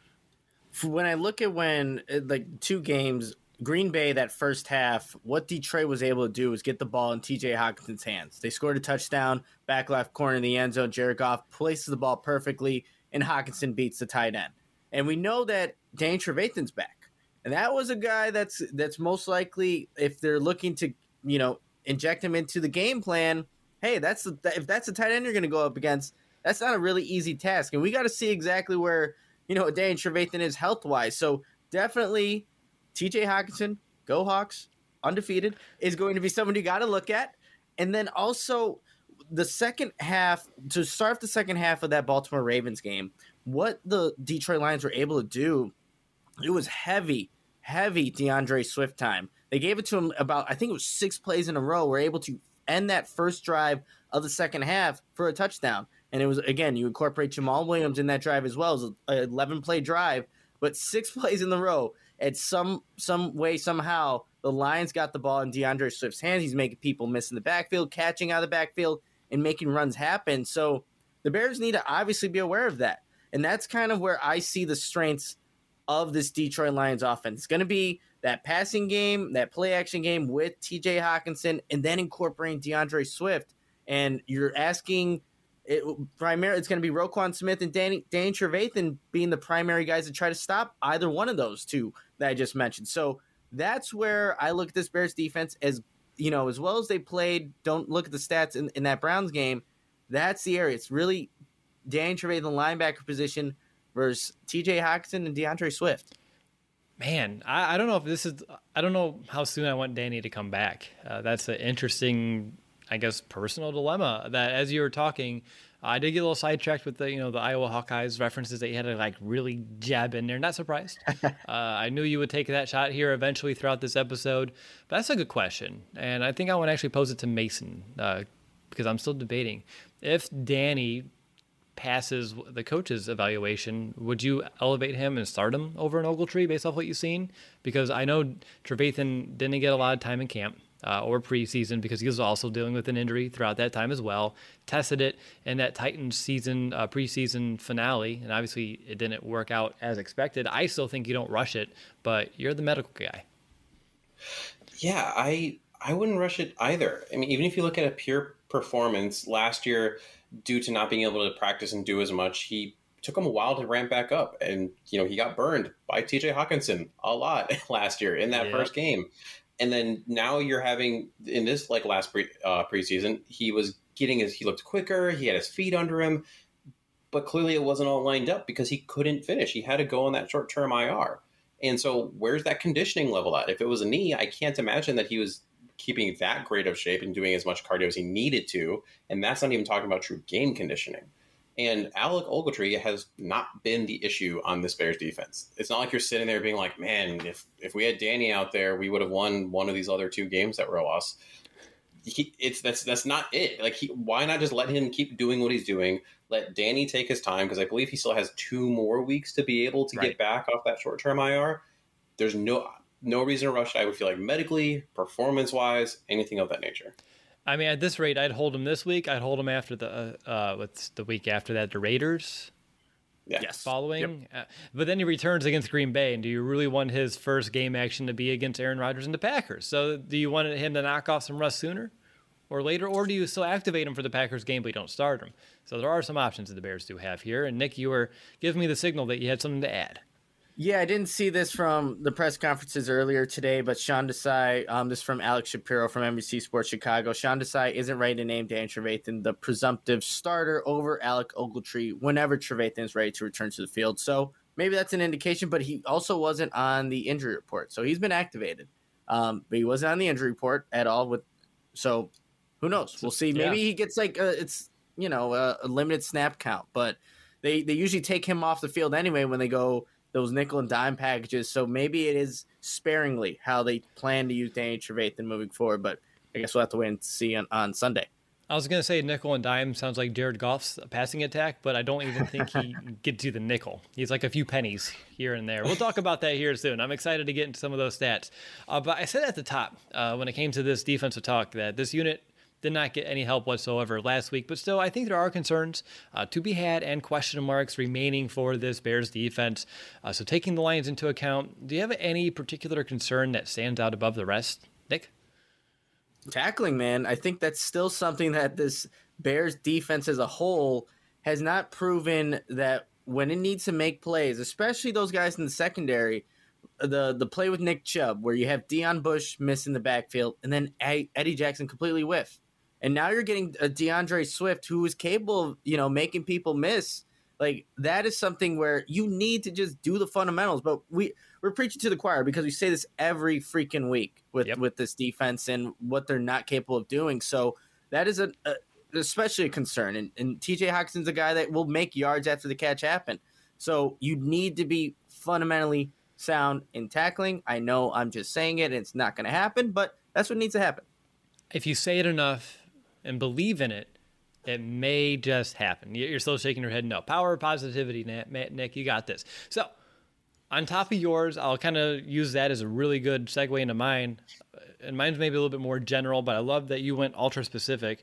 When I look at when, like, two games, Green Bay, that first half, what Detroit was able to do was get the ball in T J Hockenson's hands. They scored a touchdown, back left corner in the end zone. Jared Goff places the ball perfectly, and Hockenson beats the tight end. And we know that Danny Trevathan's back. And that was a guy that's that's most likely, if they're looking to, you know, inject him into the game plan, hey, that's the, if that's the tight end you're going to go up against, that's not a really easy task. And we got to see exactly where, you know, Danny Trevathan is health-wise. So definitely T J Hockenson, go Hawks, undefeated, is going to be someone you got to look at. And then also the second half, to start the second half of that Baltimore Ravens game, what the Detroit Lions were able to do, it was heavy, heavy DeAndre Swift time. They gave it to him about, I think it was six plays in a row. Were able to end that first drive of the second half for a touchdown. And it was, again, you incorporate Jamal Williams in that drive as well. It was an eleven-play drive, but six plays in the row. At some some way, somehow, the Lions got the ball in DeAndre Swift's hands. He's making people miss in the backfield, catching out of the backfield, and making runs happen. So the Bears need to obviously be aware of that. And that's kind of where I see the strengths of this Detroit Lions offense. It's going to be that passing game, that play-action game with T J Hockenson, and then incorporating DeAndre Swift. And you're asking, it, primarily, it's going to be Roquan Smith and Danny, Danny Trevathan being the primary guys to try to stop either one of those two that I just mentioned. So that's where I look at this Bears defense as, you know, as well as they played, don't look at the stats in, in that Browns game, that's the area. It's really Danny Trevathan, the linebacker position, versus T J Hockenson and DeAndre Swift. Man, I, I don't know if this is – I don't know how soon I want Danny to come back. Uh, that's an interesting, I guess, personal dilemma that as you were talking, I did get a little sidetracked with the, you know, the Iowa Hawkeyes references that you had to, like, really jab in there. Not surprised. uh, I knew you would take that shot here eventually throughout this episode. But that's a good question. And I think I want to actually pose it to Mason uh, because I'm still debating. If Danny – passes the coach's evaluation, would you elevate him and start him over an Ogletree based off what you've seen? Because I know Trevathan didn't get a lot of time in camp uh, or preseason because he was also dealing with an injury throughout that time as well. Tested it in that Titans season uh, preseason finale, and obviously it didn't work out as expected. I still think you don't rush it, but you're the medical guy. Yeah, I I wouldn't rush it either. I mean, even if you look at a pure performance last year, due to not being able to practice and do as much, he took him a while to ramp back up. And, you know, he got burned by T J Hockenson a lot last year in that yeah. first game. And then now you're having, in this, like, last pre, uh, preseason, he was getting his, he looked quicker, he had his feet under him, but clearly it wasn't all lined up because he couldn't finish. He had to go on that short-term I R. And so where's that conditioning level at? If it was a knee, I can't imagine that he was keeping that great of shape and doing as much cardio as he needed to. And that's not even talking about true game conditioning. And Alec Ogletree has not been the issue on this Bears defense. It's not like you're sitting there being like, man, if, if we had Danny out there, we would have won one of these other two games that were a loss. He, it's that's that's not it. Like, he, why not just let him keep doing what he's doing? Let Danny take his time, because I believe he still has two more weeks to be able to right. get back off that short-term I R. There's no... No reason to rush. I would feel like medically, performance-wise, anything of that nature. I mean, at this rate, I'd hold him this week. I'd hold him after the uh, uh what's the week after that, the Raiders. Yeah. Yes. Following, yep. uh, but then he returns against Green Bay. And do you really want his first game action to be against Aaron Rodgers and the Packers? So, do you want him to knock off some rust sooner or later, or do you still activate him for the Packers game but you don't start him? So there are some options that the Bears do have here. And Nick, you were giving me the signal that you had something to add. Yeah, I didn't see this from the press conferences earlier today, but Sean Desai, um, this is from Alex Shapiro from N B C Sports Chicago. Sean Desai isn't ready to name Dan Trevathan the presumptive starter over Alec Ogletree whenever Trevathan is ready to return to the field. So maybe that's an indication, but he also wasn't on the injury report. So he's been activated, um, but he wasn't on the injury report at all. With So who knows? We'll see. Maybe yeah. he gets like a, it's, you know, a, a limited snap count, but they they usually take him off the field anyway when they go those nickel and dime packages. So maybe it is sparingly how they plan to use Danny Trevathan moving forward. But I guess we'll have to wait and see on, on Sunday. I was going to say nickel and dime sounds like Jared Goff's passing attack, but I don't even think he gets you the nickel. He's like a few pennies here and there. We'll talk about that here soon. I'm excited to get into some of those stats. Uh, but I said at the top, uh, when it came to this defensive talk, that this unit did not get any help whatsoever last week. But still, I think there are concerns uh, to be had and question marks remaining for this Bears defense. Uh, so taking the Lions into account, do you have any particular concern that stands out above the rest, Nick? Tackling, man. I think that's still something that this Bears defense as a whole has not proven that when it needs to make plays, especially those guys in the secondary, the the play with Nick Chubb where you have Deion Bush missing the backfield and then Eddie Jackson completely whiff. And now you're getting a DeAndre Swift who is capable of, you know, making people miss. Like, that is something where you need to just do the fundamentals. But we, we're preaching to the choir because we say this every freaking week with, yep. with this defense and what they're not capable of doing. So that is a, a especially a concern. And, and T J Hawkinson's a guy that will make yards after the catch happen. So you need to be fundamentally sound in tackling. I know I'm just saying it and it's not going to happen, but that's what needs to happen. If you say it enough and believe in it, it may just happen. You're still shaking your head no. Power of positivity, Nick. You got this. So, on top of yours, I'll kind of use that as a really good segue into mine. And mine's maybe a little bit more general, but I love that you went ultra specific.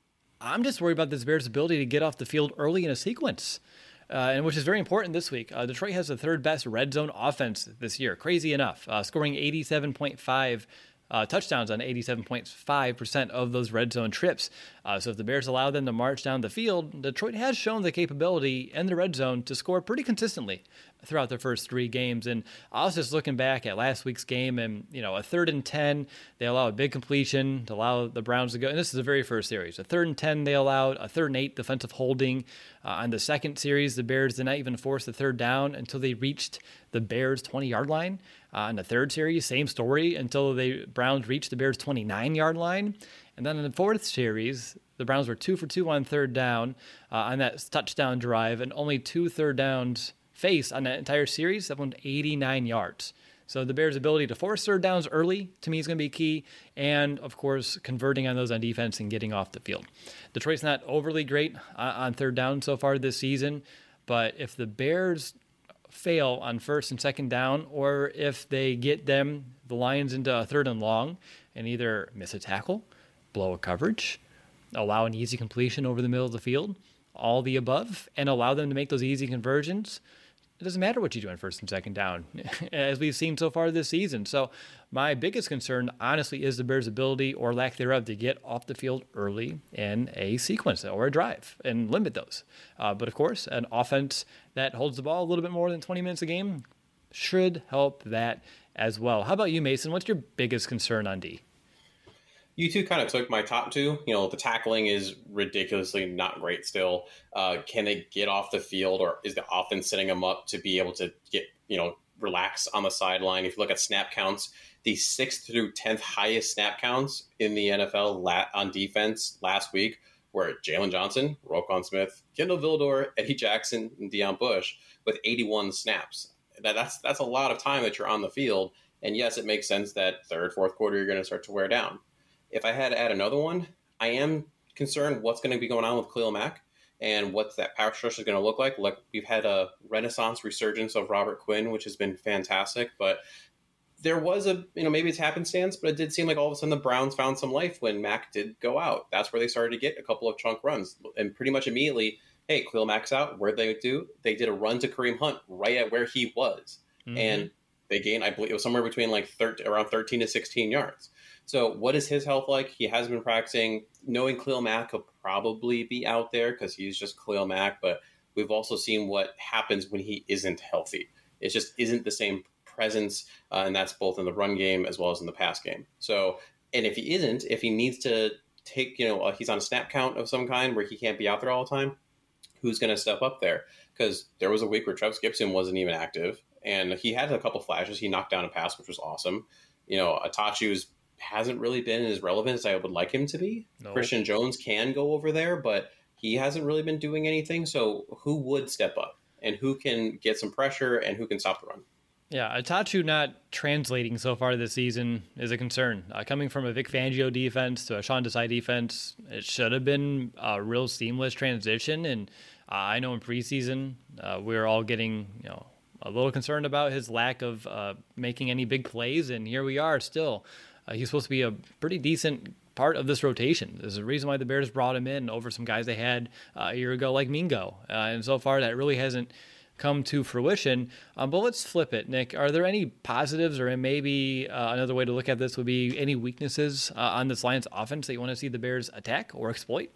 I'm just worried about this Bears' ability to get off the field early in a sequence, uh, and which is very important this week. Uh, Detroit has the third best red zone offense this year. Crazy enough, uh, scoring eighty-seven point five Uh, touchdowns on eighty-seven point five percent of those red zone trips. Uh, so if the Bears allow them to march down the field, Detroit has shown the capability in the red zone to score pretty consistently throughout their first three games. And I was just looking back at last week's game and, you know, a third and ten, they allow a big completion to allow the Browns to go. And this is the very first series. A third and ten, they allowed a third and eight defensive holding. Uh, on the second series, the Bears did not even force the third down until they reached the Bears' twenty-yard line. Uh, in the third series, same story until the Browns reached the Bears' twenty-nine-yard line. And then in the fourth series, the Browns were two for two on third down uh, on that touchdown drive, and only two third downs faced on that entire series. That went eighty-nine yards. So the Bears' ability to force third downs early, to me, is going to be key. And, of course, converting on those on defense and getting off the field. Detroit's not overly great uh, on third down so far this season, but if the Bears fail on first and second down, or if they get them, the Lions, into a third and long and either miss a tackle, blow a coverage, allow an easy completion over the middle of the field, all the above, and allow them to make those easy conversions, it doesn't matter what you do on first and second down, as we've seen so far this season. So my biggest concern, honestly, is the Bears' ability or lack thereof to get off the field early in a sequence or a drive and limit those. Uh, but, of course, an offense that holds the ball a little bit more than twenty minutes a game should help that as well. How about you, Mason? What's your biggest concern on D? You two kind of took my top two. You know, the tackling is ridiculously not great still. Uh, can they get off the field, or is the offense setting them up to be able to get, you know, relax on the sideline? If you look at snap counts, the sixth through tenth highest snap counts in the N F L la- on defense last week were Jalen Johnson, Roquan Smith, Kendall Vildor, Eddie Jackson, and Deion Bush with eighty-one snaps. That, that's that's a lot of time that you're on the field. And yes, it makes sense that third, fourth quarter, you're going to start to wear down. If I had to add another one, I am concerned what's going to be going on with Khalil Mack and what that power structure is going to look like. Like, we've had a renaissance resurgence of Robert Quinn, which has been fantastic. But there was a, you know, maybe it's happenstance, but it did seem like all of a sudden the Browns found some life when Mack did go out. That's where they started to get a couple of chunk runs. And pretty much immediately, hey, Khalil Mack's out. Where'd they do? They did a run to Kareem Hunt right at where he was. Mm-hmm. And they gained, I believe it was somewhere between like thirteen, around thirteen to sixteen yards. So what is his health like? He has been practicing. Knowing Khalil Mack could probably be out there because he's just Khalil Mack, but we've also seen what happens when he isn't healthy. It just isn't the same presence, uh, and that's both in the run game as well as in the pass game. So, and if he isn't, if he needs to take, you know, uh, he's on a snap count of some kind where he can't be out there all the time, who's going to step up there? Because there was a week where Travis Gibson wasn't even active, and he had a couple flashes. He knocked down a pass, which was awesome. You know, Atachu's hasn't really been as relevant as I would like him to be. No. Christian Jones can go over there, but he hasn't really been doing anything. So who would step up and who can get some pressure and who can stop the run? Yeah, Atachu not translating so far this season is a concern. Uh, coming from a Vic Fangio defense to a Sean Desai defense, it should have been a real seamless transition. And uh, I know in preseason uh, we were all getting, you know, a little concerned about his lack of uh, making any big plays, and here we are still. Uh, he's supposed to be a pretty decent part of this rotation. There's a reason why the Bears brought him in over some guys they had uh, a year ago, like Mingo. Uh, and so far, that really hasn't come to fruition. Um, but let's flip it, Nick. Are there any positives, or maybe uh, another way to look at this would be any weaknesses uh, on this Lions offense that you want to see the Bears attack or exploit?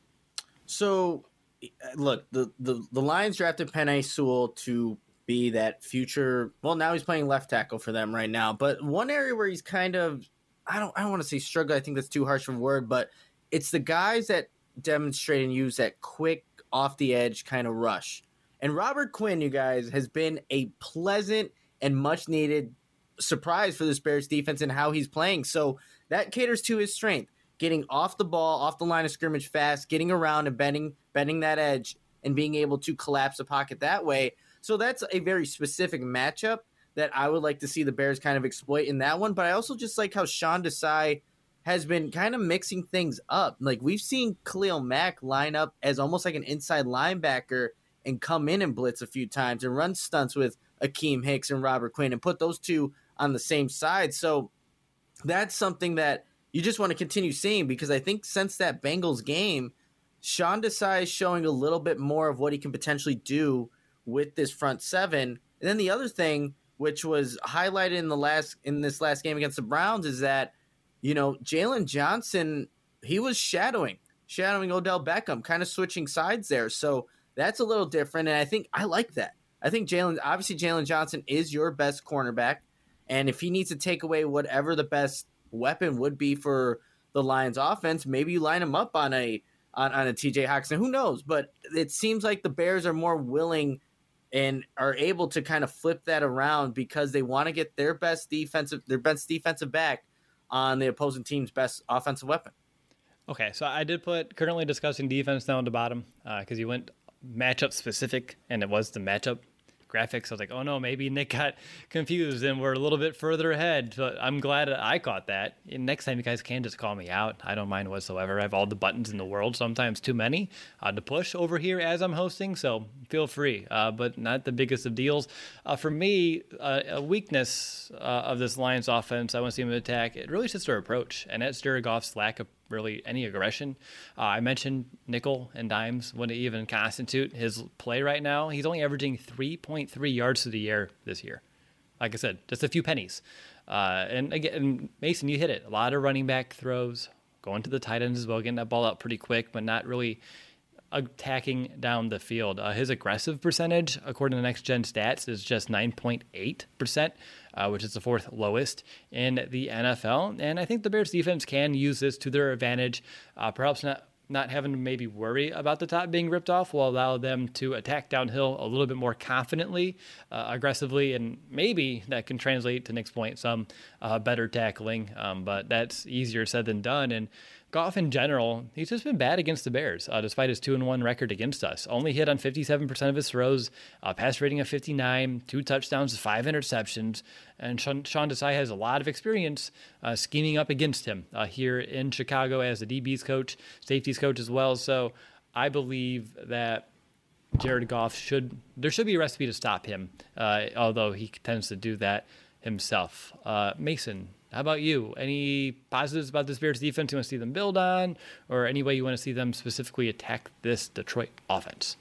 So, look, the, the, the Lions drafted Penei Sewell to be that future. Well, now he's playing left tackle for them right now. But one area where he's kind of, I don't I don't want to say struggle. I think that's too harsh of a word, but it's the guys that demonstrate and use that quick off the edge kind of rush. And Robert Quinn, you guys, has been a pleasant and much needed surprise for this Bears defense and how he's playing. So that caters to his strength, getting off the ball, off the line of scrimmage fast, getting around and bending, bending that edge and being able to collapse the pocket that way. So that's a very specific matchup that I would like to see the Bears kind of exploit in that one. But I also just like how Sean Desai has been kind of mixing things up. Like we've seen Khalil Mack line up as almost like an inside linebacker and come in and blitz a few times and run stunts with Akeem Hicks and Robert Quinn and put those two on the same side. So that's something that you just want to continue seeing, because I think since that Bengals game, Sean Desai is showing a little bit more of what he can potentially do with this front seven. And then the other thing, which was highlighted in the last in this last game against the Browns, is that, you know, Jalen Johnson, he was shadowing, shadowing Odell Beckham, kind of switching sides there. So that's a little different, and I think I like that. I think Jalen, obviously Jalen Johnson is your best cornerback, and if he needs to take away whatever the best weapon would be for the Lions offense, maybe you line him up on a on, on a T J Hockenson. Who knows? But it seems like the Bears are more willing and are able to kind of flip that around because they want to get their best defensive their best defensive back on the opposing team's best offensive weapon. Okay, so I did put currently discussing defense down at the bottom because uh, you went matchup specific, and it was the matchup graphics. I was like, oh no, maybe Nick got confused and we're a little bit further ahead. But I'm glad I caught that. And next time you guys can just call me out. I don't mind whatsoever. I have all the buttons in the world, sometimes too many uh, to push over here as I'm hosting. So feel free, uh, but not the biggest of deals. Uh, for me, uh, a weakness uh, of this Lions offense, I want to see them attack. It really is just their approach. And that's Jared Goff's lack of really any aggression. Uh, I mentioned nickel and dimes wouldn't even constitute his play right now. He's only averaging three point three yards to the air this year. Like I said, just a few pennies. Uh, and again, Mason, you hit it. A lot of running back throws, going to the tight ends as well, getting that ball out pretty quick, but not really attacking down the field. Uh, his aggressive percentage, according to Next Gen Stats, is just nine point eight percent, uh, which is the fourth lowest in the N F L. And I think the Bears defense can use this to their advantage. Uh, perhaps not not having to maybe worry about the top being ripped off will allow them to attack downhill a little bit more confidently, uh, aggressively, and maybe that can translate to Nick's point, some uh, better tackling. Um, but that's easier said than done. And Goff in general, he's just been bad against the Bears, uh, despite his two and one record against us. Only hit on fifty-seven percent of his throws, uh, pass rating of fifty-nine, two touchdowns, five interceptions. And Sean, Sean Desai has a lot of experience uh, scheming up against him uh, here in Chicago as the D B's coach, safeties coach as well. So I believe that Jared Goff should, there should be a recipe to stop him, uh, although he tends to do that himself. Uh, Mason, how about you? Any positives about this Bears defense you want to see them build on, or any way you want to see them specifically attack this Detroit offense?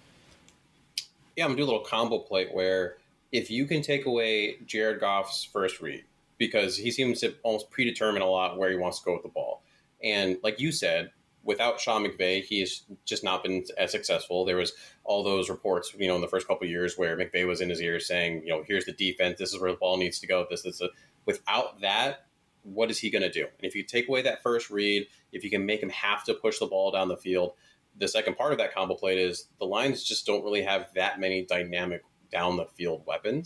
Yeah, I'm going to do a little combo play where if you can take away Jared Goff's first read, because he seems to almost predetermine a lot where he wants to go with the ball. And like you said, without Sean McVay, he's just not been as successful. There was all those reports, you know, in the first couple of years where McVay was in his ear saying, you know, here's the defense, this is where the ball needs to go, this is a, without that, what is he going to do? And if you take away that first read, if you can make him have to push the ball down the field, the second part of that combo play is the Lions just don't really have that many dynamic down the field weapons.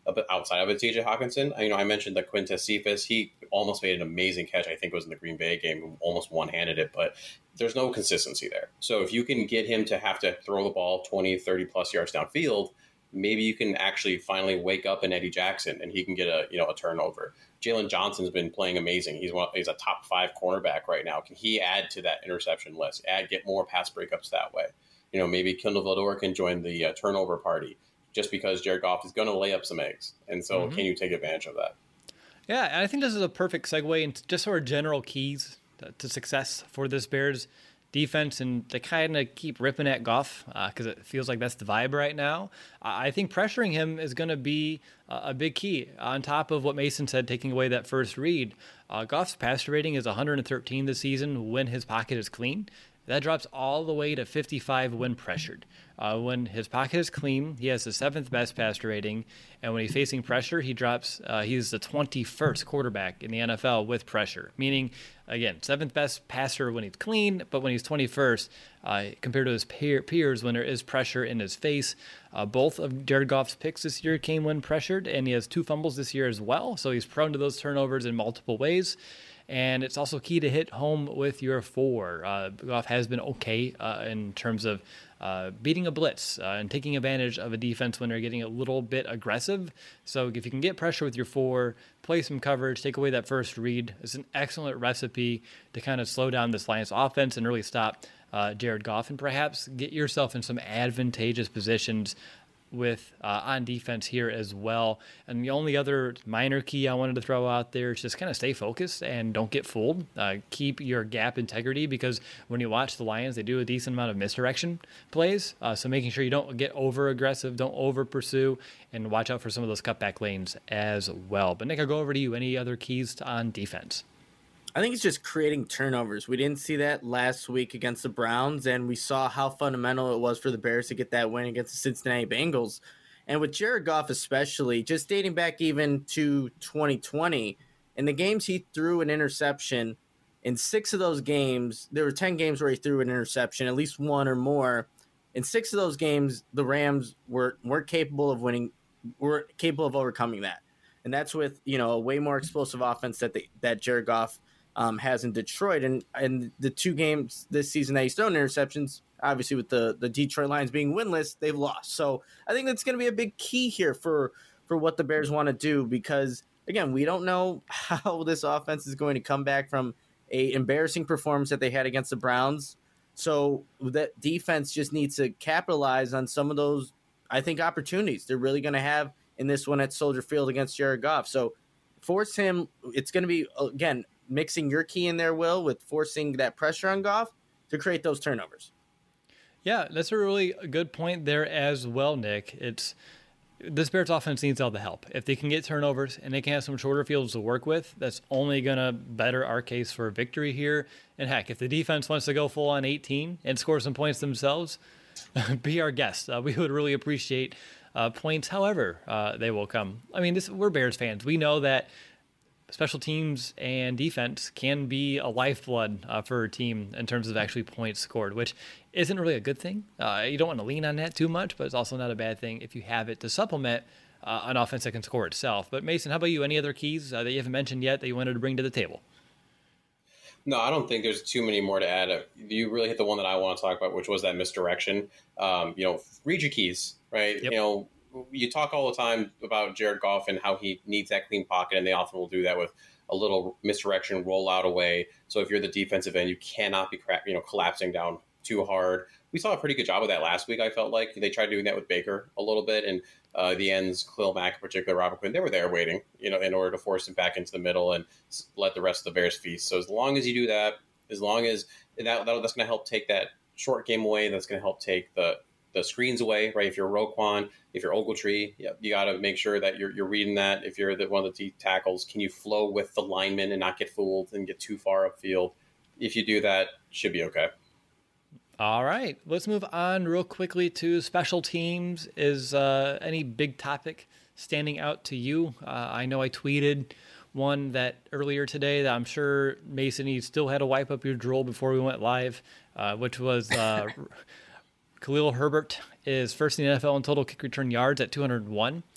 outside of it, T J Hawkinson. You know, I mentioned that Quintez Cephas, he almost made an amazing catch. I think it was in the Green Bay game, almost one-handed it, but there's no consistency there. So if you can get him to have to throw the ball twenty, thirty plus yards downfield, maybe you can actually finally wake up an Eddie Jackson and he can get a, you know, a turnover. Jalen Johnson's been playing amazing. He's one, he's a top five cornerback right now. Can he add to that interception list? Add, get more pass breakups that way. You know, maybe Kindle Vildor can join the uh, turnover party just because Jared Goff is going to lay up some eggs. And so mm-hmm. can you take advantage of that? Yeah, I think this is a perfect segue into just sort of general keys to success for this Bears defense, and to kind of keep ripping at Goff because uh, it feels like that's the vibe right now. I think pressuring him is going to be a big key. On top of what Mason said, taking away that first read, uh, Goff's passer rating is one hundred thirteen this season when his pocket is clean. That drops all the way to fifty-five when pressured. Uh, when his pocket is clean, he has the seventh best passer rating, and when he's facing pressure, he drops. Uh, he's the twenty-first quarterback in the N F L with pressure, meaning, again, seventh best passer when he's clean, but when he's twenty-first, uh, compared to his peer, peers when there is pressure in his face. Uh, both of Jared Goff's picks this year came when pressured, and he has two fumbles this year as well, so he's prone to those turnovers in multiple ways. And it's also key to hit home with your four. Uh, Goff has been okay uh, in terms of uh, beating a blitz uh, and taking advantage of a defense when they're getting a little bit aggressive. So if you can get pressure with your four, play some coverage, take away that first read, it's an excellent recipe to kind of slow down this Lions offense and really stop uh, Jared Goff and perhaps get yourself in some advantageous positions with uh, on defense here as well. And the only other minor key I wanted to throw out there is just kind of stay focused and don't get fooled. Uh, keep your gap integrity, because when you watch the Lions, they do a decent amount of misdirection plays. Uh, so making sure you don't get over aggressive, don't over pursue, and watch out for some of those cutback lanes as well. But Nick, I'll go over to you. Any other keys on defense? I think it's just creating turnovers. We didn't see that last week against the Browns, and we saw how fundamental it was for the Bears to get that win against the Cincinnati Bengals. And with Jared Goff especially, just dating back even to twenty twenty, in the games he threw an interception, in six of those games, there were ten games where he threw an interception, at least one or more. In six of those games, the Rams were, weren't capable of winning, weren't capable of overcoming that. And that's with, you know, a way more explosive offense that the, that Jared Goff Um, has in Detroit, and and the two games this season that he's thrown interceptions, obviously with the, the Detroit Lions being winless, they've lost. So I think that's going to be a big key here for for what the Bears want to do, because again, we don't know how this offense is going to come back from a embarrassing performance that they had against the Browns. So that defense just needs to capitalize on some of those, I think, opportunities they're really going to have in this one at Soldier Field against Jared Goff. So force him. It's going to be, again, mixing your key in there, Will, with forcing that pressure on Goff to create those turnovers. Yeah, that's a really good point there as well, Nick. It's this Bears offense needs all the help. If they can get turnovers and they can have some shorter fields to work with, that's only going to better our case for a victory here. And heck, if the defense wants to go full on eighteen and score some points themselves, be our guest. Uh, we would really appreciate uh, points, however uh, they will come. I mean, this, we're Bears fans. We know that special teams and defense can be a lifeblood uh, for a team in terms of actually points scored, which isn't really a good thing. Uh, you don't want to lean on that too much, but it's also not a bad thing if you have it to supplement uh, an offense that can score itself. But Mason, how about you? Any other keys uh, that you haven't mentioned yet that you wanted to bring to the table? No, I don't think there's too many more to add. You really hit the one that I want to talk about, which was that misdirection. Um, you know, read your keys, right? Yep. You know, you talk all the time about Jared Goff and how he needs that clean pocket, and they often will do that with a little misdirection, roll out away. So if you're the defensive end, you cannot be you know collapsing down too hard. We saw a pretty good job of that last week, I felt like. They tried doing that with Baker a little bit, and uh, the ends, Khalil Mack in particular, Robert Quinn, they were there waiting, you know, in order to force him back into the middle and let the rest of the Bears feast. So as long as you do that, as long as that, that that's going to help take that short game away, that's going to help take the the screens away, right? If you're Roquan, if you're Ogletree, yeah, you got to make sure that you're you're reading that. If you're the, one of the deep tackles, can you flow with the linemen and not get fooled and get too far upfield? If you do that, should be okay. All right, let's move on real quickly to special teams. Is uh, any big topic standing out to you? Uh, I know I tweeted one that earlier today that I'm sure, Mason, you still had to wipe up your drool before we went live, uh, which was uh, Khalil Herbert is first in the N F L in total kick return yards at two hundred one.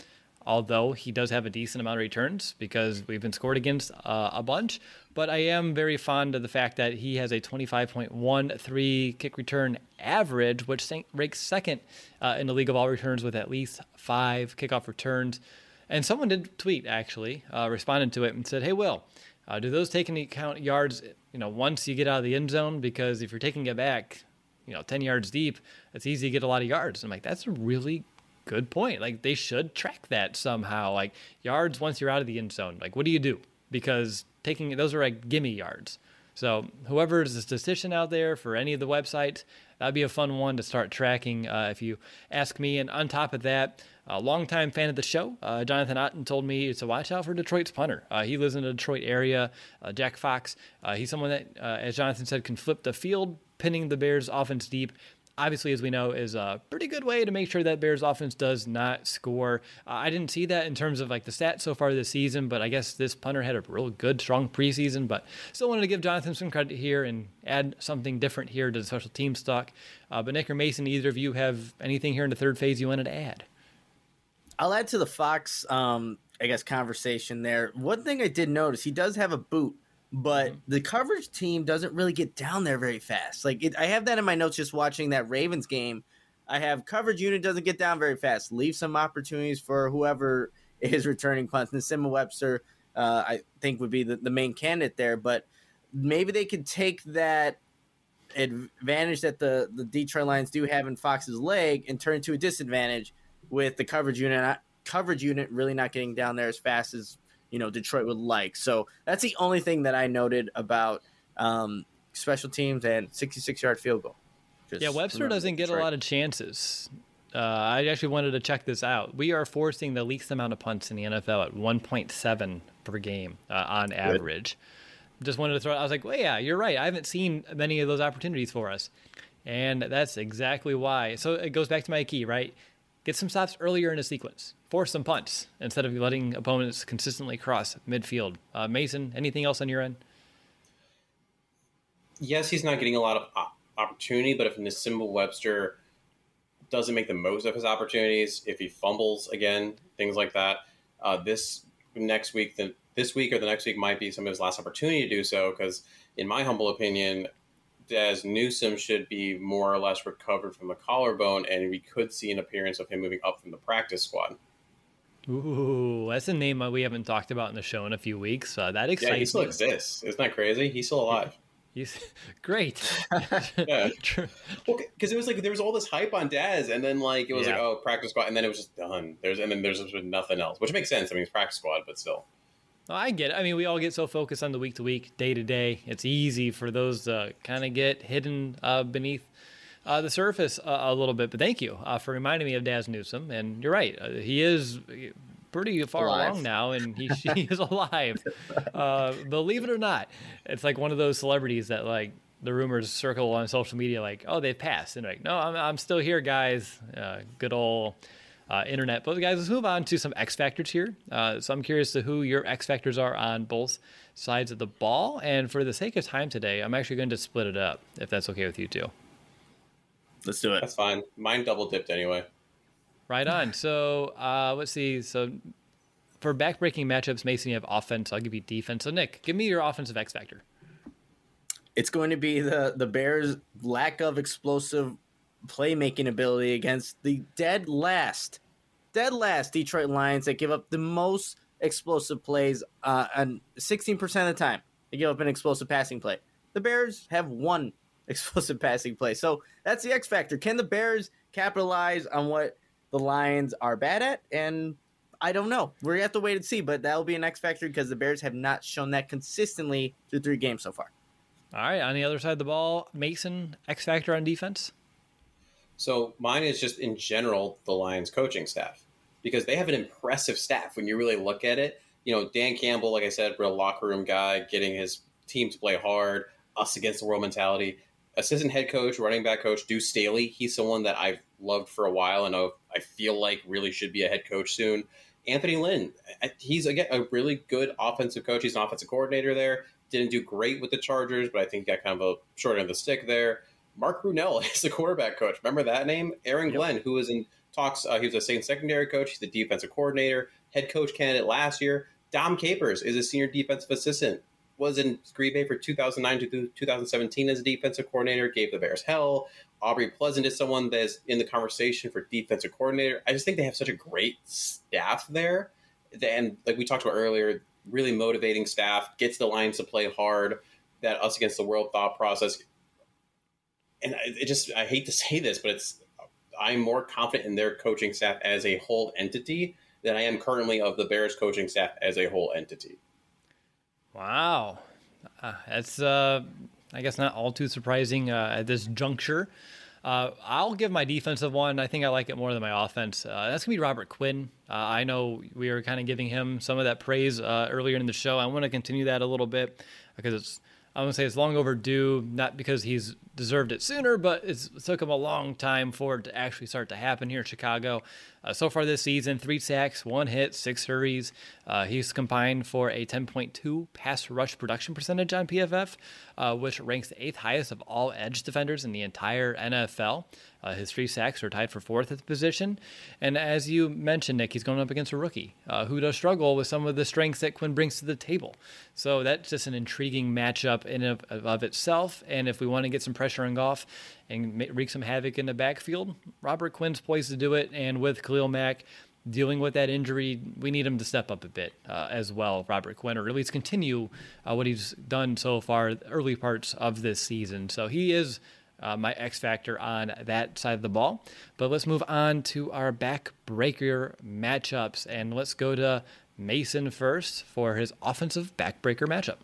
although he does have a decent amount of returns because we've been scored against uh, a bunch. But I am very fond of the fact that he has a twenty-five point one three kick return average, which ranks second uh, in the league of all returns with at least five kickoff returns. And someone did tweet, actually, uh, responded to it and said, hey, Will, uh, do those take into account yards, you know, once you get out of the end zone? Because if you're taking it back, you know, ten yards deep, it's easy to get a lot of yards. I'm like, that's a really good point. Like, they should track that somehow. Like, yards once you're out of the end zone. Like, what do you do? Because taking those are like gimme yards. So whoever is a statistician out there for any of the websites, that'd be a fun one to start tracking uh, if you ask me. And on top of that, a longtime fan of the show, uh, Jonathan Otten, told me to watch out for Detroit's punter. Uh, he lives in the Detroit area, uh, Jack Fox. Uh, he's someone that, uh, as Jonathan said, can flip the field, pinning the Bears' offense deep. Obviously, as we know, is a pretty good way to make sure that Bears offense does not score. Uh, I didn't see that in terms of like the stats so far this season, but I guess this punter had a real good, strong preseason. But still wanted to give Jonathan some credit here and add something different here to the special team stock. Uh, but Nick or Mason, either of you have anything here in the third phase you wanted to add? I'll add to the Fox, um, I guess, conversation there. One thing I did notice, he does have a boot, but mm-hmm. the coverage team doesn't really get down there very fast. Like it, I have that in my notes just watching that Ravens game. I have coverage unit doesn't get down very fast. Leave some opportunities for whoever is returning punts. And Simon Webster, uh, I think, would be the, the main candidate there. But maybe they could take that advantage that the, the Detroit Lions do have in Fox's leg and turn it to a disadvantage with the coverage unit, not, coverage unit really not getting down there as fast as, you know, Detroit would like. So that's the only thing that I noted about um, special teams and sixty-six yard field goal. Just yeah, Webster doesn't get Detroit. a lot of chances. Uh, I actually wanted to check this out. We are forcing the least amount of punts in the N F L at one point seven per game uh, on average. Good. Just wanted to throw it. I was like, well, yeah, you're right. I haven't seen many of those opportunities for us. And that's exactly why. So it goes back to my key, right? Get some stops earlier in the sequence. Force some punts instead of letting opponents consistently cross midfield. Uh, Mason, anything else on your end? Yes, he's not getting a lot of opportunity, but if Nisimba Webster doesn't make the most of his opportunities, if he fumbles again, things like that, uh, this next week, the, this week or the next week might be some of his last opportunity to do so, because in my humble opinion, Daz Newsome should be more or less recovered from the collarbone, and we could see an appearance of him moving up from the practice squad. Ooh, that's a name we haven't talked about in the show in a few weeks. Uh, that excites me. Yeah, he still me. exists. Isn't that crazy? He's still alive. He's great. Yeah. Well, because it was like there was all this hype on Daz, and then like it was yeah. like, oh, practice squad, and then it was just done. There's and then there's just nothing else, which makes sense. I mean, it's practice squad, but still. Well, I get it. I mean, we all get so focused on the week to week, day to day. It's easy for those to kind of get hidden uh, beneath uh, the surface uh, a little bit. But thank you uh, for reminding me of Daz Newsome. And you're right. Uh, he is pretty far alive. along now, and he, he is alive. Uh, believe it or not, it's like one of those celebrities that like the rumors circle on social media like, oh, they've passed. And like, no, I'm, I'm still here, guys. Uh, good old... Uh, internet. But guys, let's move on to some X factors here. Uh, so I'm curious to who your X factors are on both sides of the ball. And for the sake of time today, I'm actually going to split it up, if that's okay with you two. Let's do it. That's fine. Mine double dipped anyway. Right on. So uh, let's see. So for backbreaking matchups, Mason, you have offense. I'll give you defense. So Nick, give me your offensive X factor. It's going to be the the Bears' lack of explosive playmaking ability against the dead last, dead last Detroit Lions that give up the most explosive plays, uh, and sixteen percent of the time they give up an explosive passing play. The Bears have one explosive passing play. So that's the X factor. Can the Bears capitalize on what the Lions are bad at? And I don't know. We're going to have to wait and see, but that'll be an X factor because the Bears have not shown that consistently through three games so far. All right. On the other side of the ball, Mason, X factor on defense? So mine is just in general the Lions coaching staff, because they have an impressive staff when you really look at it. You know, Dan Campbell, like I said, real locker room guy, getting his team to play hard, us against the world mentality. Assistant head coach, running back coach, Deuce Staley. He's someone that I've loved for a while and I feel like really should be a head coach soon. Anthony Lynn, he's, again, a really good offensive coach. He's an offensive coordinator there. Didn't do great with the Chargers, but I think he got kind of a short end of the stick there. Mark Brunell is the quarterback coach. Remember that name? Aaron Glenn, who was in talks. Uh, he was a Saints secondary coach. He's the defensive coordinator. head coach candidate last year. Dom Capers is a senior defensive assistant. Was in Green Bay for two thousand nine to two thousand seventeen as a defensive coordinator, gave the Bears hell. Aubrey Pleasant is someone that's in the conversation for defensive coordinator. I just think they have such a great staff there. And like we talked about earlier, really motivating staff, gets the Lions to play hard, that us against the world thought process. And it just, I hate to say this, but it's, I'm more confident in their coaching staff as a whole entity than I am currently of the Bears coaching staff as a whole entity. Wow. Uh, that's, uh, I guess, not all too surprising uh, at this juncture. Uh, I'll give my defensive one. I think I like it more than my offense. Uh, that's going to be Robert Quinn. Uh, I know we were kind of giving him some of that praise uh, earlier in the show. I want to continue that a little bit because it's, I want to say it's long overdue, not because he's deserved it sooner, but it's, it took him a long time for it to actually start to happen here in Chicago. Uh, so far this season, three sacks, one hit, six hurries. Uh, he's combined for a ten point two pass rush production percentage on P F F, uh, which ranks the eighth highest of all edge defenders in the entire N F L. Uh, his three sacks are tied for fourth at the position. And as you mentioned, Nick, he's going up against a rookie uh, who does struggle with some of the strengths that Quinn brings to the table. So that's just an intriguing matchup in of, of itself. And if we want to get some pressure on Goff and wreak some havoc in the backfield, Robert Quinn's poised to do it. And with Khalil Mack dealing with that injury, we need him to step up a bit uh, as well, Robert Quinn, or at least continue uh, what he's done so far, early parts of this season. So he is uh, my X factor on that side of the ball. But let's move on to our backbreaker matchups, and let's go to Mason first for his offensive backbreaker matchup.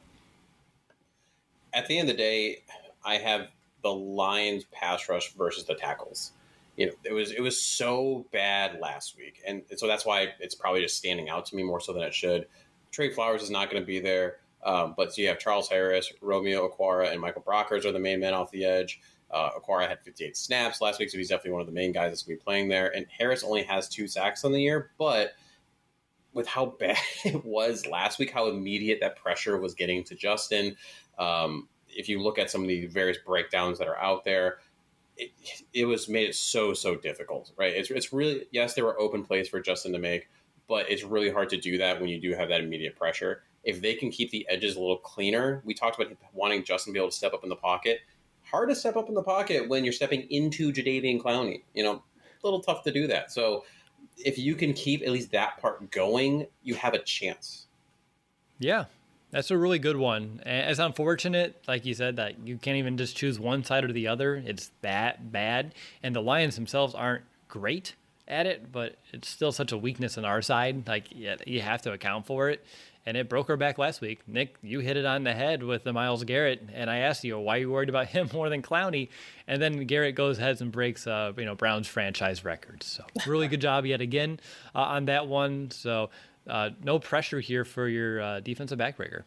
At the end of the day, I have the Lions pass rush versus the tackles. You know, it was it was so bad last week, and so that's why it's probably just standing out to me more so than it should. Trey Flowers is not going to be there, um, but so you have Charles Harris, Romeo Okwara, and Michael Brockers are the main men off the edge. Uh, Okwara had fifty-eight snaps last week, so he's definitely one of the main guys that's going to be playing there. And Harris only has two sacks on the year, but with how bad it was last week, how immediate that pressure was getting to Justin, um, if you look at some of the various breakdowns that are out there, It, it was made it so, so difficult, right? It's it's really, yes, there were open plays for Justin to make, but it's really hard to do that when you do have that immediate pressure. If they can keep the edges a little cleaner, we talked about wanting Justin to be able to step up in the pocket. Hard to step up in the pocket when you're stepping into Jadeveon Clowney. You know, a little tough to do that. So if you can keep at least that part going, you have a chance. Yeah. That's a really good one. And it's unfortunate, like you said, that you can't even just choose one side or the other. It's that bad. And the Lions themselves aren't great at it, but it's still such a weakness on our side. Like, yeah, you have to account for it. And it broke our back last week. Nick, you hit it on the head with the Myles Garrett. And I asked you, why are you worried about him more than Clowney? And then Garrett goes ahead and breaks, uh, you know, Brown's franchise records. So really good job yet again uh, on that one. So uh, no pressure here for your uh, defensive backbreaker.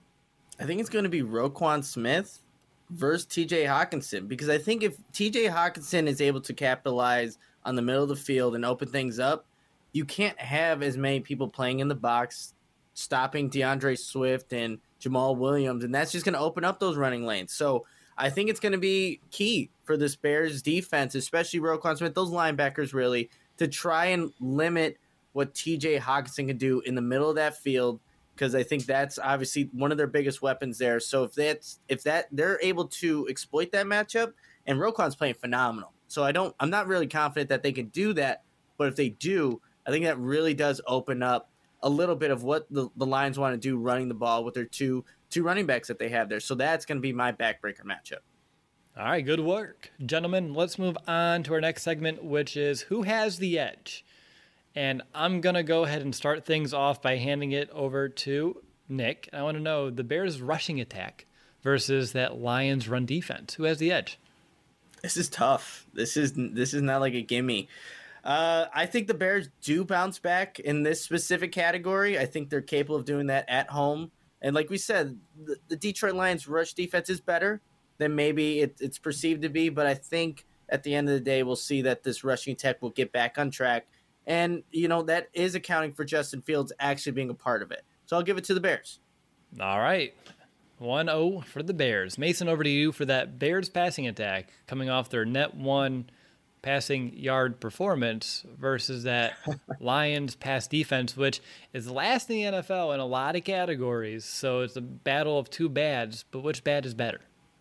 I think it's going to be Roquan Smith versus T J Hawkinson, because I think if T J Hawkinson is able to capitalize on the middle of the field and open things up, you can't have as many people playing in the box, stopping DeAndre Swift and Jamal Williams, and that's just going to open up those running lanes. So I think it's going to be key for this Bears defense, especially Roquan Smith, those linebackers really, to try and limit what T J Hawkinson can do in the middle of that field, because I think that's obviously one of their biggest weapons there. So if that's if that they're able to exploit that matchup, and Roquan's playing phenomenal, so I don't I'm not really confident that they can do that. But if they do, I think that really does open up a little bit of what the, the Lions want to do running the ball with their two two running backs that they have there. So that's going to be my backbreaker matchup. All right, good work, gentlemen. Let's move on to our next segment, which is Who Has the Edge? And I'm going to go ahead and start things off by handing it over to Nick. I want to know the Bears' rushing attack versus that Lions' run defense. Who has the edge? This is tough. This is this is not like a gimme. Uh, I think the Bears do bounce back in this specific category. I think they're capable of doing that at home. And like we said, the, the Detroit Lions' rush defense is better than maybe it, it's perceived to be. But I think at the end of the day, we'll see that this rushing attack will get back on track. And, you know, that is accounting for Justin Fields actually being a part of it. So I'll give it to the Bears. All right. one oh for the Bears. Mason, over to you for that Bears passing attack coming off their net one passing yard performance versus that Lions pass defense, which is last in the N F L in a lot of categories. So it's a battle of two bads, but which bad is better?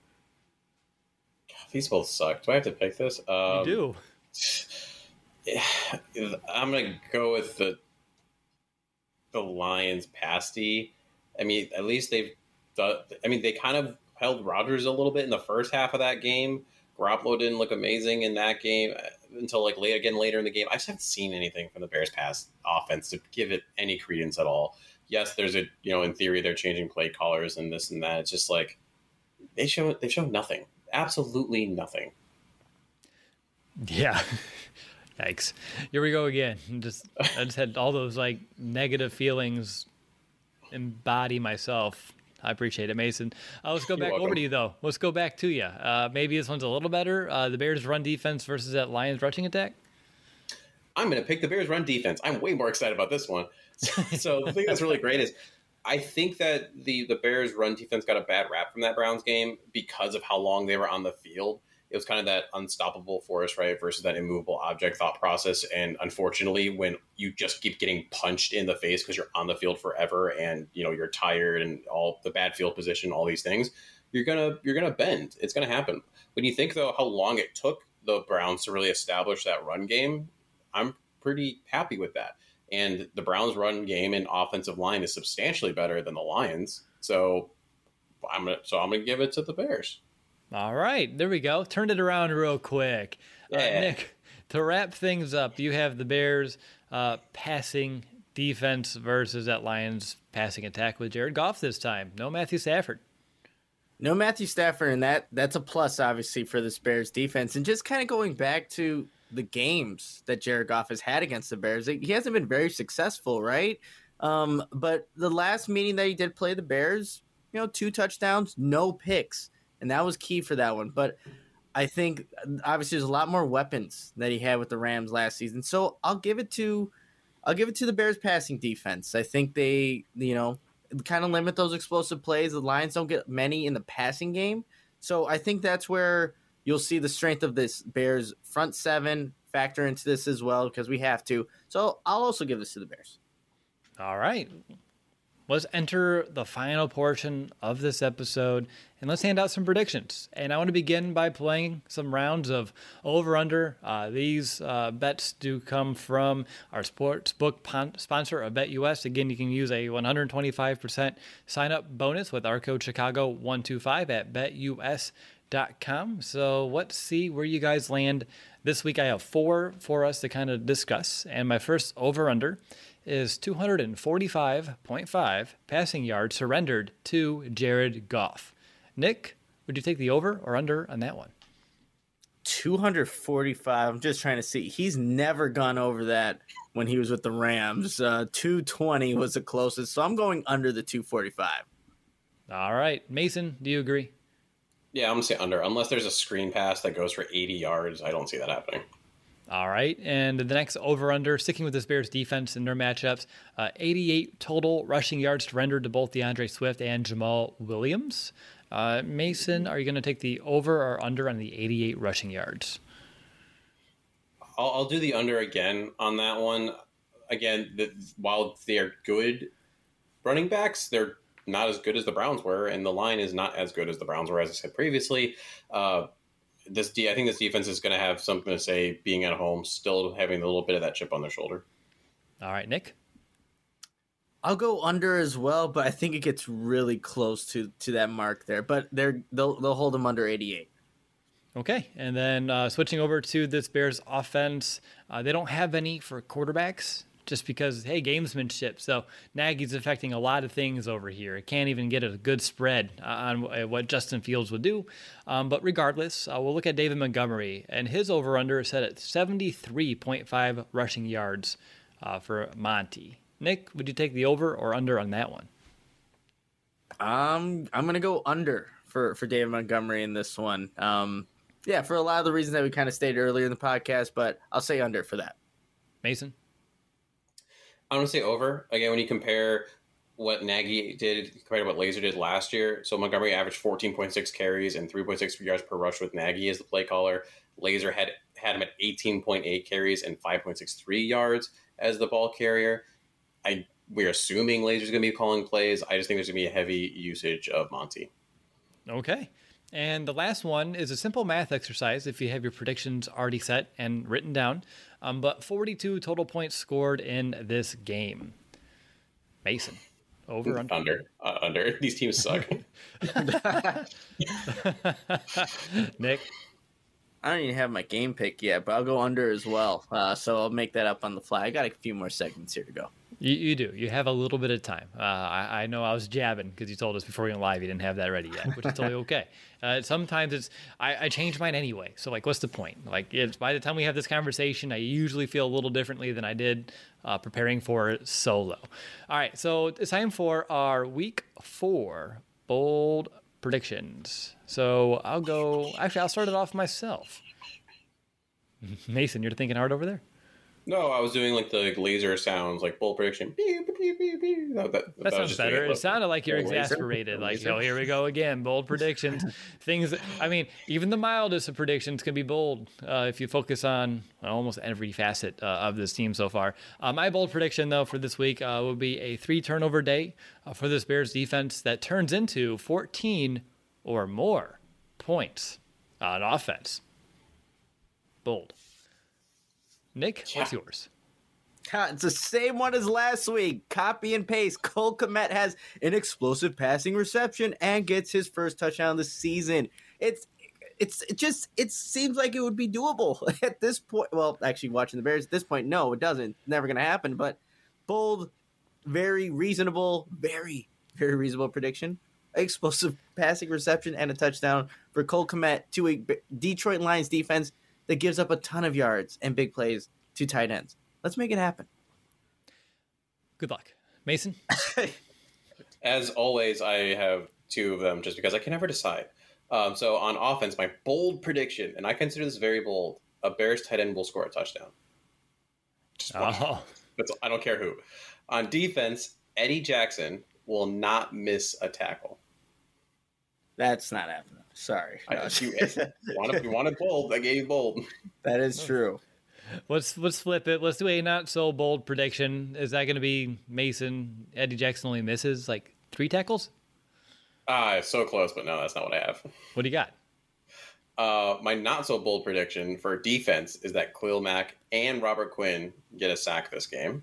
These both suck. Do I have to pick this? Um, you do. I'm going to go with the the Lions pasty. I mean, at least they've done, I mean, they kind of held Rodgers a little bit in the first half of that game. Garoppolo didn't look amazing in that game until like late again later in the game. I just haven't seen anything from the Bears pass offense to give it any credence at all. Yes, there's a, you know, in theory they're changing play callers and this and that. It's just like they show they show nothing. Absolutely nothing. Yeah. Yikes. Here we go again. Just I just had all those like negative feelings embody myself. I appreciate it, Mason. Uh, let's go You're back welcome. over to you, though. Let's go back to you. Uh, maybe this one's a little better. Uh, the Bears' run defense versus that Lions rushing attack? I'm going to pick the Bears' run defense. I'm way more excited about this one. So the thing that's really great is I think that the, the Bears' run defense got a bad rap from that Browns game because of how long they were on the field. It was kind of that unstoppable force, right, versus that immovable object thought process. And unfortunately, when you just keep getting punched in the face because you're on the field forever and, you know, you're tired and all the bad field position, all these things, you're going to you're going to bend. It's going to happen. When you think, though, how long it took the Browns to really establish that run game, I'm pretty happy with that. And the Browns' run game and offensive line is substantially better than the Lions. So I'm gonna so I'm going to give it to the Bears. All right, there we go. Turned it around real quick. Yeah. Uh, Nick, to wrap things up, you have the Bears uh, passing defense versus that Lions passing attack with Jared Goff this time. No Matthew Stafford. No Matthew Stafford, and that that's a plus, obviously, for this Bears defense. And just kind of going back to the games that Jared Goff has had against the Bears, he hasn't been very successful, right? Um, but the last meeting that he did play the Bears, you know, two touchdowns, no picks. And that was key for that one. But I think, obviously, there's a lot more weapons that he had with the Rams last season. So I'll give it to I'll give it to the Bears passing defense. I think they, you know, kind of limit those explosive plays. The Lions don't get many in the passing game. So I think that's where you'll see the strength of this Bears front seven factor into this as well, because we have to. So I'll also give this to the Bears. All right. Let's enter the final portion of this episode, and let's hand out some predictions. And I want to begin by playing some rounds of over-under. Uh, these uh, bets do come from our sportsbook pon- sponsor, BetUS. Again, you can use a one hundred twenty-five percent sign-up bonus with our code Chicago one two five at bet U S dot com. So let's see where you guys land this week. I have four for us to kind of discuss, and my first over-under is two hundred forty-five point five passing yards surrendered to Jared Goff. Nick, would you take the over or under on that one? two hundred forty-five. I'm just trying to see. He's never gone over that when he was with the Rams. Uh, two twenty was the closest, so I'm going under the two forty-five. All right. Mason, do you agree? Yeah, I'm going to say under. Unless there's a screen pass that goes for eighty yards, I don't see that happening. All right, and the next over-under, sticking with this Bears defense and their matchups, uh, eighty-eight total rushing yards surrendered to both DeAndre Swift and Jamal Williams. Uh, Mason, are you going to take the over or under on the eighty-eight rushing yards? I'll, I'll do the under again on that one. Again, the, while they're good running backs, they're not as good as the Browns were, and the line is not as good as the Browns were, as I said previously. Uh, This de- I think this defense is going to have something to say being at home, still having a little bit of that chip on their shoulder. All right, Nick? I'll go under as well, but I think it gets really close to, to that mark there. But they're they'll they'll hold them under eighty-eight. Okay, and then uh, switching over to this Bears offense, uh, they don't have any for quarterbacks just because, hey, gamesmanship. So Nagy's affecting a lot of things over here. It can't even get a good spread on what Justin Fields would do. Um, but regardless, uh, we'll look at David Montgomery, and his over-under is set at seventy-three point five rushing yards uh, for Monty. Nick, would you take the over or under on that one? Um, I'm gonna go under for for David Montgomery in this one. Um, yeah, for a lot of the reasons that we kind of stated earlier in the podcast, but I'll say under for that. Mason? I'm going to say over. Again, when you compare what Nagy did compared to what Laser did last year, so Montgomery averaged fourteen point six carries and three point six yards per rush with Nagy as the play caller. Laser had had him at eighteen point eight carries and five point six three yards as the ball carrier. I we're assuming Lazer's going to be calling plays. I just think there's going to be a heavy usage of Monty. Okay. And the last one is a simple math exercise if you have your predictions already set and written down. Um, but forty-two total points scored in this game. Mason, over, under? Under. Uh, under. These teams suck. Nick? I don't even have my game pick yet, but I'll go under as well. Uh, so I'll make that up on the fly. I got a few more segments here to go. You, you do. You have a little bit of time. Uh, I, I know I was jabbing because you told us before we went live you didn't have that ready yet, which is totally okay. Uh, sometimes it's I, I change mine anyway. So like, what's the point? Like, it's, by the time we have this conversation, I usually feel a little differently than I did uh, preparing for it solo. All right, so it's time for our week four bold predictions. So I'll go. Actually, I'll start it off myself. Mason, you're thinking hard over there. No, I was doing like the laser sounds, like bold prediction. That, that, that sounds better. It sounded like you're exasperated. Like, oh, here we go again. Bold predictions. Things, that, I mean, even the mildest of predictions can be bold uh, if you focus on well, almost every facet uh, of this team so far. Uh, my bold prediction, though, for this week uh, will be a three turnover day uh, for this Bears defense that turns into fourteen or more points on offense. Bold. Nick, what's yeah. yours? It's the same one as last week. Copy and paste. Cole Kmet has an explosive passing reception and gets his first touchdown of the season. It's it's it just it seems like it would be doable at this point. Well, actually, watching the Bears at this point, no, it doesn't. It's never going to happen. But bold, very reasonable, very very reasonable prediction. Explosive passing reception and a touchdown for Cole Kmet to a Detroit Lions defense that gives up a ton of yards and big plays to tight ends. Let's make it happen. Good luck. Mason? As always, I have two of them just because I can never decide. Um, so on offense, my bold prediction, and I consider this very bold, a Bears tight end will score a touchdown. Just one. Oh. That's, I don't care who. On defense, Eddie Jackson will not miss a tackle. That's not happening. Sorry. I, you, wanted, you wanted bold. I gave you bold. That is true. Let's let's flip it. Let's do a not so bold prediction. Is that going to be Mason? Eddie Jackson only misses like three tackles? Ah, so close, but no, that's not what I have. What do you got? Uh, my not so bold prediction for defense is that Khalil Mack and Robert Quinn get a sack this game.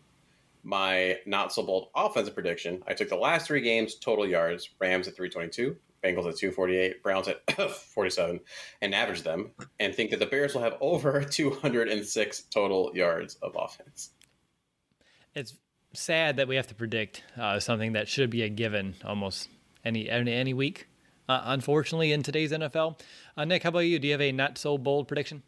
My not so bold offensive prediction, I took the last three games total yards: Rams at three twenty-two. Bengals at two forty-eight, Browns at forty-seven, and average them, and think that the Bears will have over two hundred six total yards of offense. It's sad that we have to predict uh, something that should be a given almost any any, any week, uh, unfortunately, in today's N F L. Uh, Nick, how about you? Do you have a not so bold prediction?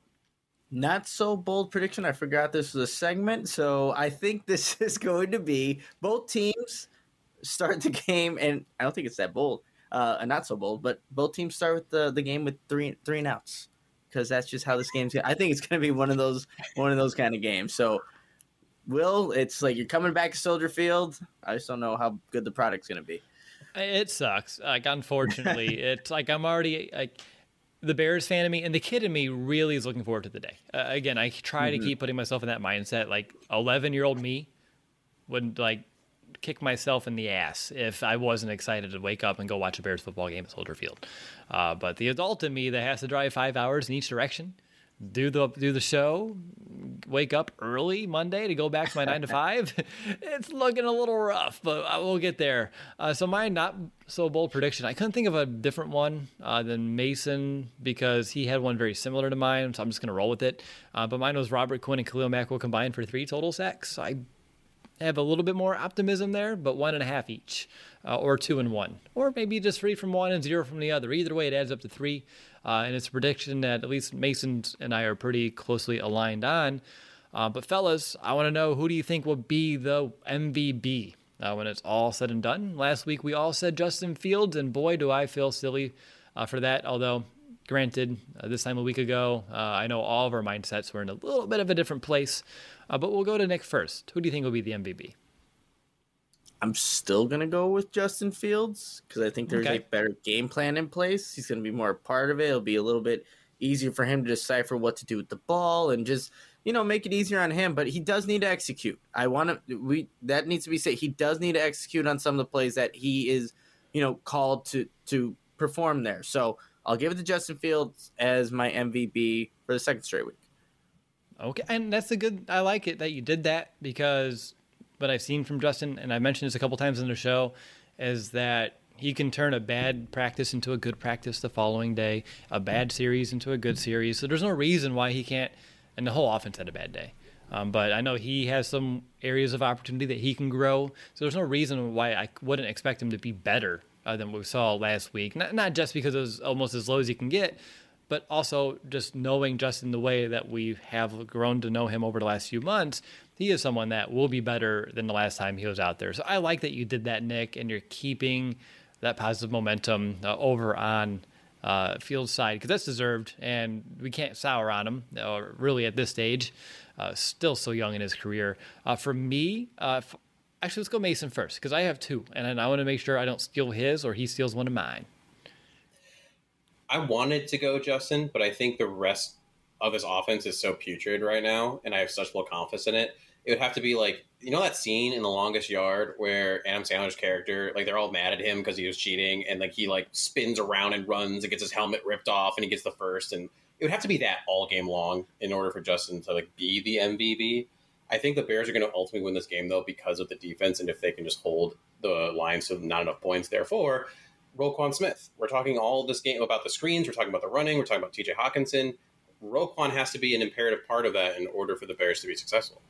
Not so bold prediction. I forgot this was a segment, so I think this is going to be both teams start the game, and I don't think it's that bold. Uh, not so bold, but both teams start with the, the game with three three and outs because that's just how this game's. I think it's going to be one of those one of those kind of games. So, Will, it's like you're coming back to Soldier Field. I just don't know how good the product's going to be. It sucks. Like, unfortunately, it's like I'm already like the Bears fan in me, and the kid in me really is looking forward to the day. Uh, again, I try mm-hmm. to keep putting myself in that mindset. Like eleven year old me would like. kick myself in the ass if I wasn't excited to wake up and go watch a Bears football game at Soldier Field. Uh, but the adult in me that has to drive five hours in each direction, do the do the show, wake up early Monday to go back to my nine to five, it's looking a little rough, but I will get there. Uh, so my not so bold prediction, I couldn't think of a different one uh, than Mason because he had one very similar to mine, so I'm just going to roll with it. Uh, but mine was Robert Quinn and Khalil Mack will combine for three total sacks. I have a little bit more optimism there, but one and a half each, uh, or two and one, or maybe just three from one and zero from the other. Either way, it adds up to three, uh, and it's a prediction that at least Mason and I are pretty closely aligned on. Uh, but fellas, I want to know, who do you think will be the M V P uh, when it's all said and done? Last week we all said Justin Fields, and boy, do I feel silly uh, for that. Although, granted, uh, this time a week ago, uh, I know all of our mindsets were in a little bit of a different place. Uh, but we'll go to Nick first. Who do you think will be the M V P? I'm still going to go with Justin Fields because I think there's okay. a better game plan in place. He's going to be more a part of it. It'll be a little bit easier for him to decipher what to do with the ball and just, you know, make it easier on him. But he does need to execute. I want to, we, that needs to be said. He does need to execute on some of the plays that he is, you know, called to, to perform there. So I'll give it to Justin Fields as my M V P for the second straight week. Okay, and that's a good, I like it that you did that, because what I've seen from Justin, and I mentioned this a couple times in the show, is that he can turn a bad practice into a good practice the following day, a bad series into a good series. So there's no reason why he can't, and the whole offense had a bad day. Um, but I know he has some areas of opportunity that he can grow. So there's no reason why I wouldn't expect him to be better uh, than what we saw last week. Not, not just because it was almost as low as he can get, but also just knowing Justin the way that we have grown to know him over the last few months, he is someone that will be better than the last time he was out there. So I like that you did that, Nick, and you're keeping that positive momentum uh, over on uh, Fields' side, because that's deserved, and we can't sour on him, uh, really at this stage. Uh, still so young in his career. Uh, for me, uh, f- actually, let's go Mason first, because I have two, and I want to make sure I don't steal his or he steals one of mine. I wanted to go Justin, but I think the rest of his offense is so putrid right now, and I have such low confidence in it. It would have to be like, you know that scene in The Longest Yard where Adam Sandler's character, like they're all mad at him because he was cheating, and like he like spins around and runs and gets his helmet ripped off and he gets the first, and it would have to be that all game long in order for Justin to like be the M V P. I think the Bears are going to ultimately win this game though because of the defense, and if they can just hold the Lions to not enough points, therefore Roquan Smith. We're talking all this game about the screens. We're talking about the running. We're talking about T J Hawkinson. Roquan has to be an imperative part of that in order for the Bears to be successful.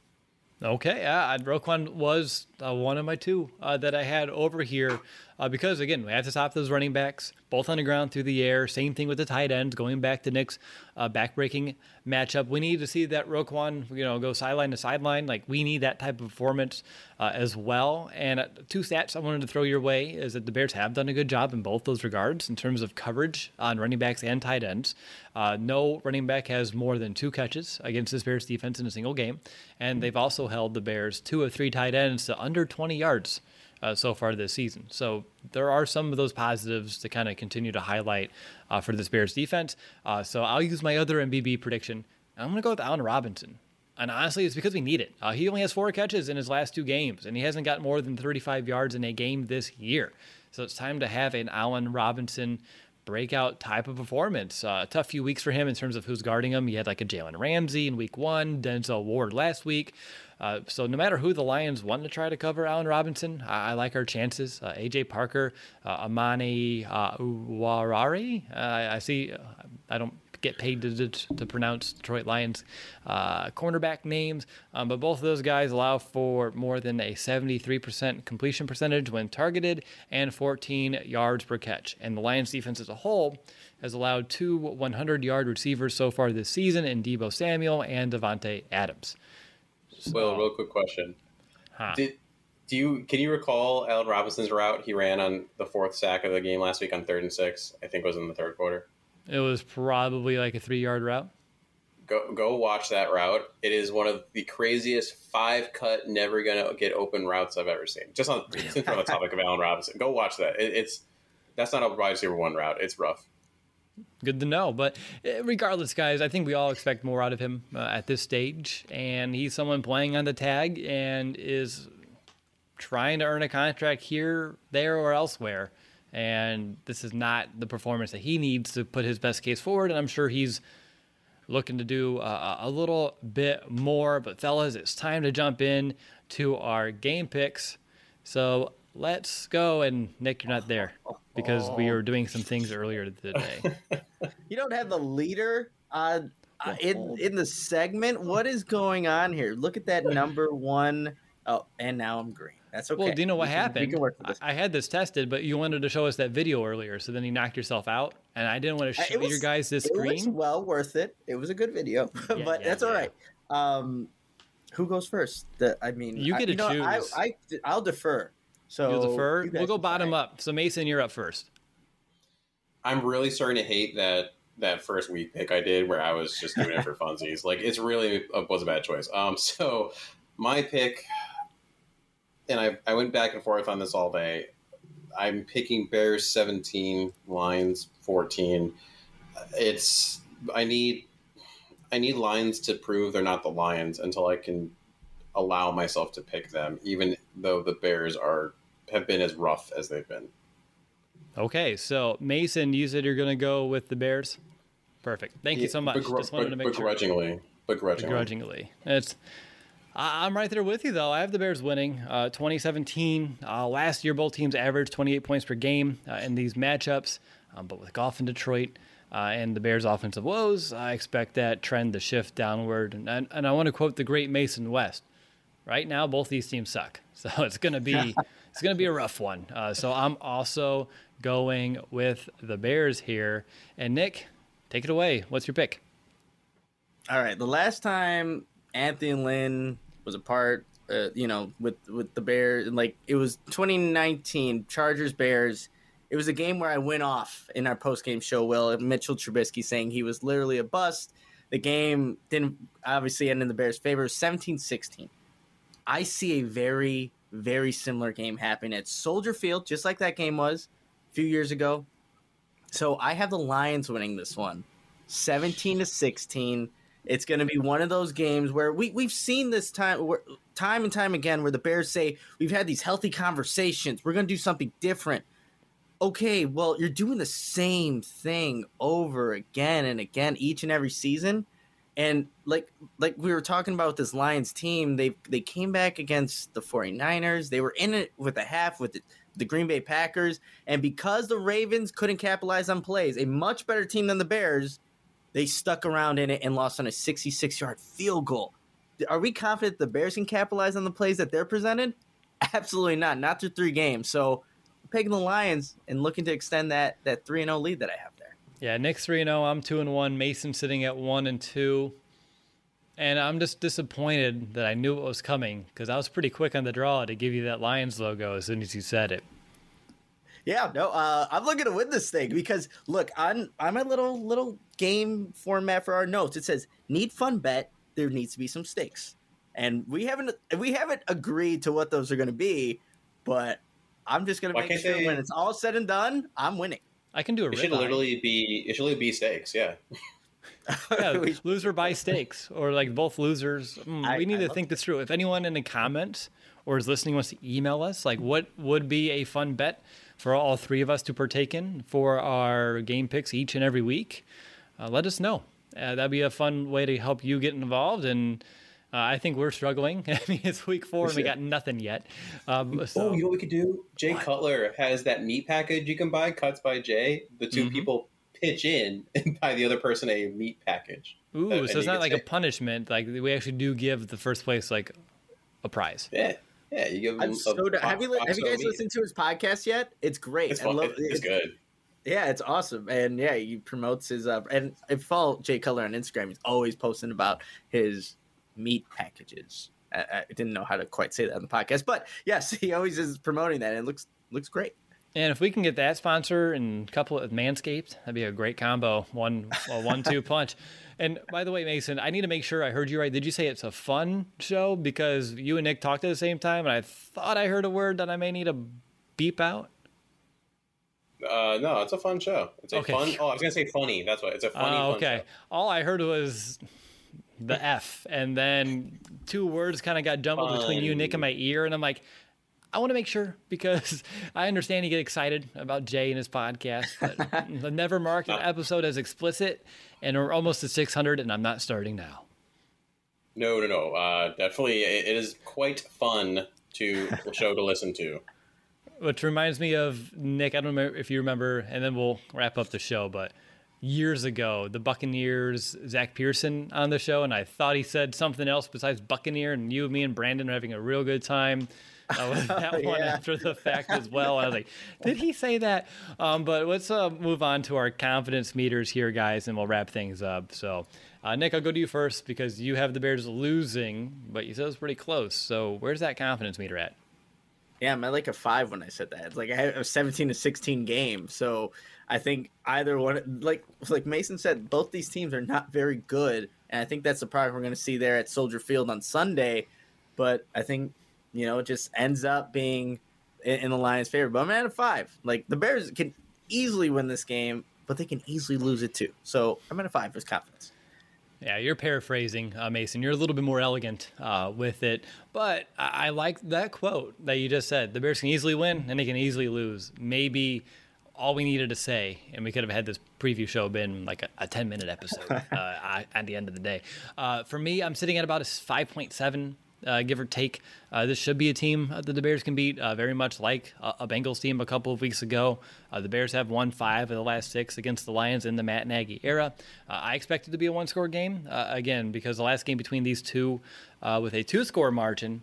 Okay, yeah, Roquan was uh, one of my two uh, that I had over here uh, because, again, we have to stop those running backs, both on the ground, through the air. Same thing with the tight ends, going back to Nick's uh, back-breaking matchup. We need to see that Roquan, you know, go sideline to sideline. Like, we need that type of performance uh, as well. And uh, two stats I wanted to throw your way is that the Bears have done a good job in both those regards in terms of coverage on running backs and tight ends. Uh, no running back has more than two catches against this Bears defense in a single game. And they've also held the Bears two of three tight ends to under twenty yards uh, so far this season. So there are some of those positives to kind of continue to highlight uh, for this Bears defense. Uh, so I'll use my other M V P prediction. I'm going to go with Allen Robinson. And honestly, it's because we need it. Uh, he only has four catches in his last two games, and he hasn't got more than thirty-five yards in a game this year. So it's time to have an Allen Robinson breakout type of performance. Uh, a tough few weeks for him in terms of who's guarding him. He had like a Jalen Ramsey in week one, Denzel Ward last week. Uh, so no matter who the Lions want to try to cover Allen Robinson, I, I like our chances. Uh, A J Parker, uh, Amani uh, Uwarari. Uh, I, I see. Uh, I don't get paid to, to, to pronounce Detroit Lions uh, cornerback names, um, but both of those guys allow for more than a seventy-three percent completion percentage when targeted and fourteen yards per catch. And the Lions defense as a whole has allowed two hundred-yard receivers so far this season in Deebo Samuel and Devontae Adams. So, well, real quick question. Huh. Did do you can you recall Allen Robinson's route he ran on the fourth sack of the game last week on third and six? I think it was in the third quarter. It was probably like a three-yard route. Go go watch that route. It is one of the craziest five-cut, never gonna get open routes I've ever seen. Just on since we're on the topic of Allen Robinson, go watch that. It, it's that's not a wide receiver one route. It's rough. Good to know. But regardless, guys, I think we all expect more out of him uh, at this stage. And he's someone playing on the tag and is trying to earn a contract here, there, or elsewhere. And this is not the performance that he needs to put his best case forward. And I'm sure he's looking to do uh, a little bit more. But fellas, it's time to jump in to our game picks. So let's go. And Nick, you're not there because we were doing some things earlier today. You don't have the leader uh, uh, in in the segment. What is going on here? Look at that number one. Oh, and now I'm green. That's okay. Well, do you know what we can, happened? We can work with this. I, I had this tested, but you wanted to show us that video earlier, so then you knocked yourself out, and I didn't want to show was, you guys this it screen. It was well worth it. It was a good video, yeah, but yeah, that's yeah. all right. Um, who goes first? The, I mean, you get I, to you know, choose. I, I, I'll defer. So You'll defer. We'll go bottom decide. up. So Mason, you're up first. I'm really starting to hate that that first week pick I did, where I was just doing it for funsies. Like, it's really a, was a bad choice. Um, so my pick. And I, I went back and forth on this all day. I'm picking Bears seventeen, Lions fourteen. It's I need I need Lions to prove they're not the Lions until I can allow myself to pick them, even though the Bears are have been as rough as they've been. Okay, so Mason, you said you're going to go with the Bears. Perfect. Thank yeah, you so much. Begr- Just wanted to make begrudgingly, sure. Begrudgingly. Begrudgingly. It's. I'm right there with you, though. I have the Bears winning. Uh, twenty seventeen, uh, last year, both teams averaged twenty-eight points per game uh, in these matchups. Um, but with Goff in Detroit uh, and the Bears' offensive woes, I expect that trend to shift downward. And, and, and I want to quote the great Mason West. Right now, both these teams suck. So it's going to be it's going to be a rough one. Uh, so I'm also going with the Bears here. And Nick, take it away. What's your pick? All right. The last time Anthony Lynn was a part, uh, you know, with, with the Bears, like it was twenty nineteen Chargers Bears. It was a game where I went off in our post-game show, Will, Mitchell Trubisky saying he was literally a bust. The game didn't obviously end in the Bears' favor, seventeen sixteen. I see a very, very similar game happening at Soldier Field, just like that game was a few years ago. So I have the Lions winning this one, seventeen to sixteen. It's going to be one of those games where we, we've seen this time, where, time and time again where the Bears say, we've had these healthy conversations. We're going to do something different. Okay, well, you're doing the same thing over again and again each and every season. And like like we were talking about this Lions team, they they came back against the 49ers. They were in it with a half with the, the Green Bay Packers. And because the Ravens couldn't capitalize on plays, a much better team than the Bears, they stuck around in it and lost on a sixty-six-yard field goal. Are we confident the Bears can capitalize on the plays that they're presented? Absolutely not. Not through three games. So I'm picking the Lions and looking to extend that that three and oh lead that I have there. Yeah, Nick's three and oh, I'm two and one, Mason sitting at one and two. And I'm just disappointed that I knew it was coming because I was pretty quick on the draw to give you that Lions logo as soon as you said it. Yeah, no, uh, I'm looking to win this thing because look, on on my little little game format for our notes, it says need fun bet. There needs to be some stakes, and we haven't we haven't agreed to what those are going to be, but I'm just going to make sure they... when it's all said and done, I'm winning. I can do a. It should literally be. It should literally be stakes. Yeah. Yeah, loser buy stakes, or like both losers. Mm, I, we need I to think this through. If anyone in the comments or is listening wants to email us, like what would be a fun bet for all three of us to partake in for our game picks each and every week, uh, let us know. Uh, that'd be a fun way to help you get involved. And uh, I think we're struggling. I mean, it's week four and we got nothing yet. Um, so. Oh, you know what we could do? Jay what? Cutler has that meat package you can buy, Cuts by Jay. The two mm-hmm. people pitch in and buy the other person a meat package. Ooh, uh, so it's not like say, a punishment. Like we actually do give the first place like a prize. Yeah. Yeah, you give them a, so a have you have you guys meat. listened to his podcast yet? It's great. It's, I fun. love, it's, it's good. Yeah, it's awesome. And yeah, he promotes his uh and if you follow Jay Cutler on Instagram, he's always posting about his meat packages. I, I didn't know how to quite say that on the podcast, but yes, he always is promoting that and it looks looks great. And if we can get that sponsor and couple it with Manscaped, that'd be a great combo. One a one two punch. And by the way, Mason, I need to make sure I heard you right. Did you say it's a fun show? Because you and Nick talked at the same time, and I thought I heard a word that I may need to beep out. Uh, no, it's a fun show. It's a okay. fun. Oh, I was gonna say funny. That's what. It's a funny. Uh, okay. Fun show. All I heard was the F, and then two words kind of got jumbled fun. between you, Nick, and my ear, and I'm like, I want to make sure because I understand you get excited about Jay and his podcast, but the never marked an episode as explicit, and we're almost at six hundred, and I'm not starting now. No, no, no. Uh, definitely, it is quite fun to a show to listen to. Which reminds me of, Nick, I don't know if you remember, and then we'll wrap up the show, but years ago, the Buccaneers, Zach Pearson on the show, and I thought he said something else besides Buccaneer, and you, me, and Brandon are having a real good time. Uh, with that one yeah. after the fact as well. I was like, did he say that? Um, but let's uh, move on to our confidence meters here, guys, and we'll wrap things up. So, uh, Nick, I'll go to you first because you have the Bears losing, but you said it was pretty close. So where's that confidence meter at? Yeah, I'm at like a five when I said that. It's like I had a seventeen to sixteen game. So I think either one, like like Mason said, both these teams are not very good. And I think that's the product we're going to see there at Soldier Field on Sunday. But I think, you know, it just ends up being in, in the Lions' favor. But I'm at a five. Like, the Bears can easily win this game. but they can easily lose it too. So I'm at a five as confidence. Yeah, you're paraphrasing, uh, Mason. You're a little bit more elegant uh, with it. But I-, I like that quote that you just said. The Bears can easily win and they can easily lose. Maybe all we needed to say, and we could have had this preview show been like a, a ten-minute episode uh, at the end of the day. Uh, for me, I'm sitting at about a five point seven. Uh, give or take. Uh, this should be a team that the Bears can beat, uh, very much like a, a Bengals team a couple of weeks ago. Uh, the Bears have won five of the last six against the Lions in the Matt Nagy era. Uh, I expect it to be a one-score game, uh, again, because the last game between these two uh, with a two-score margin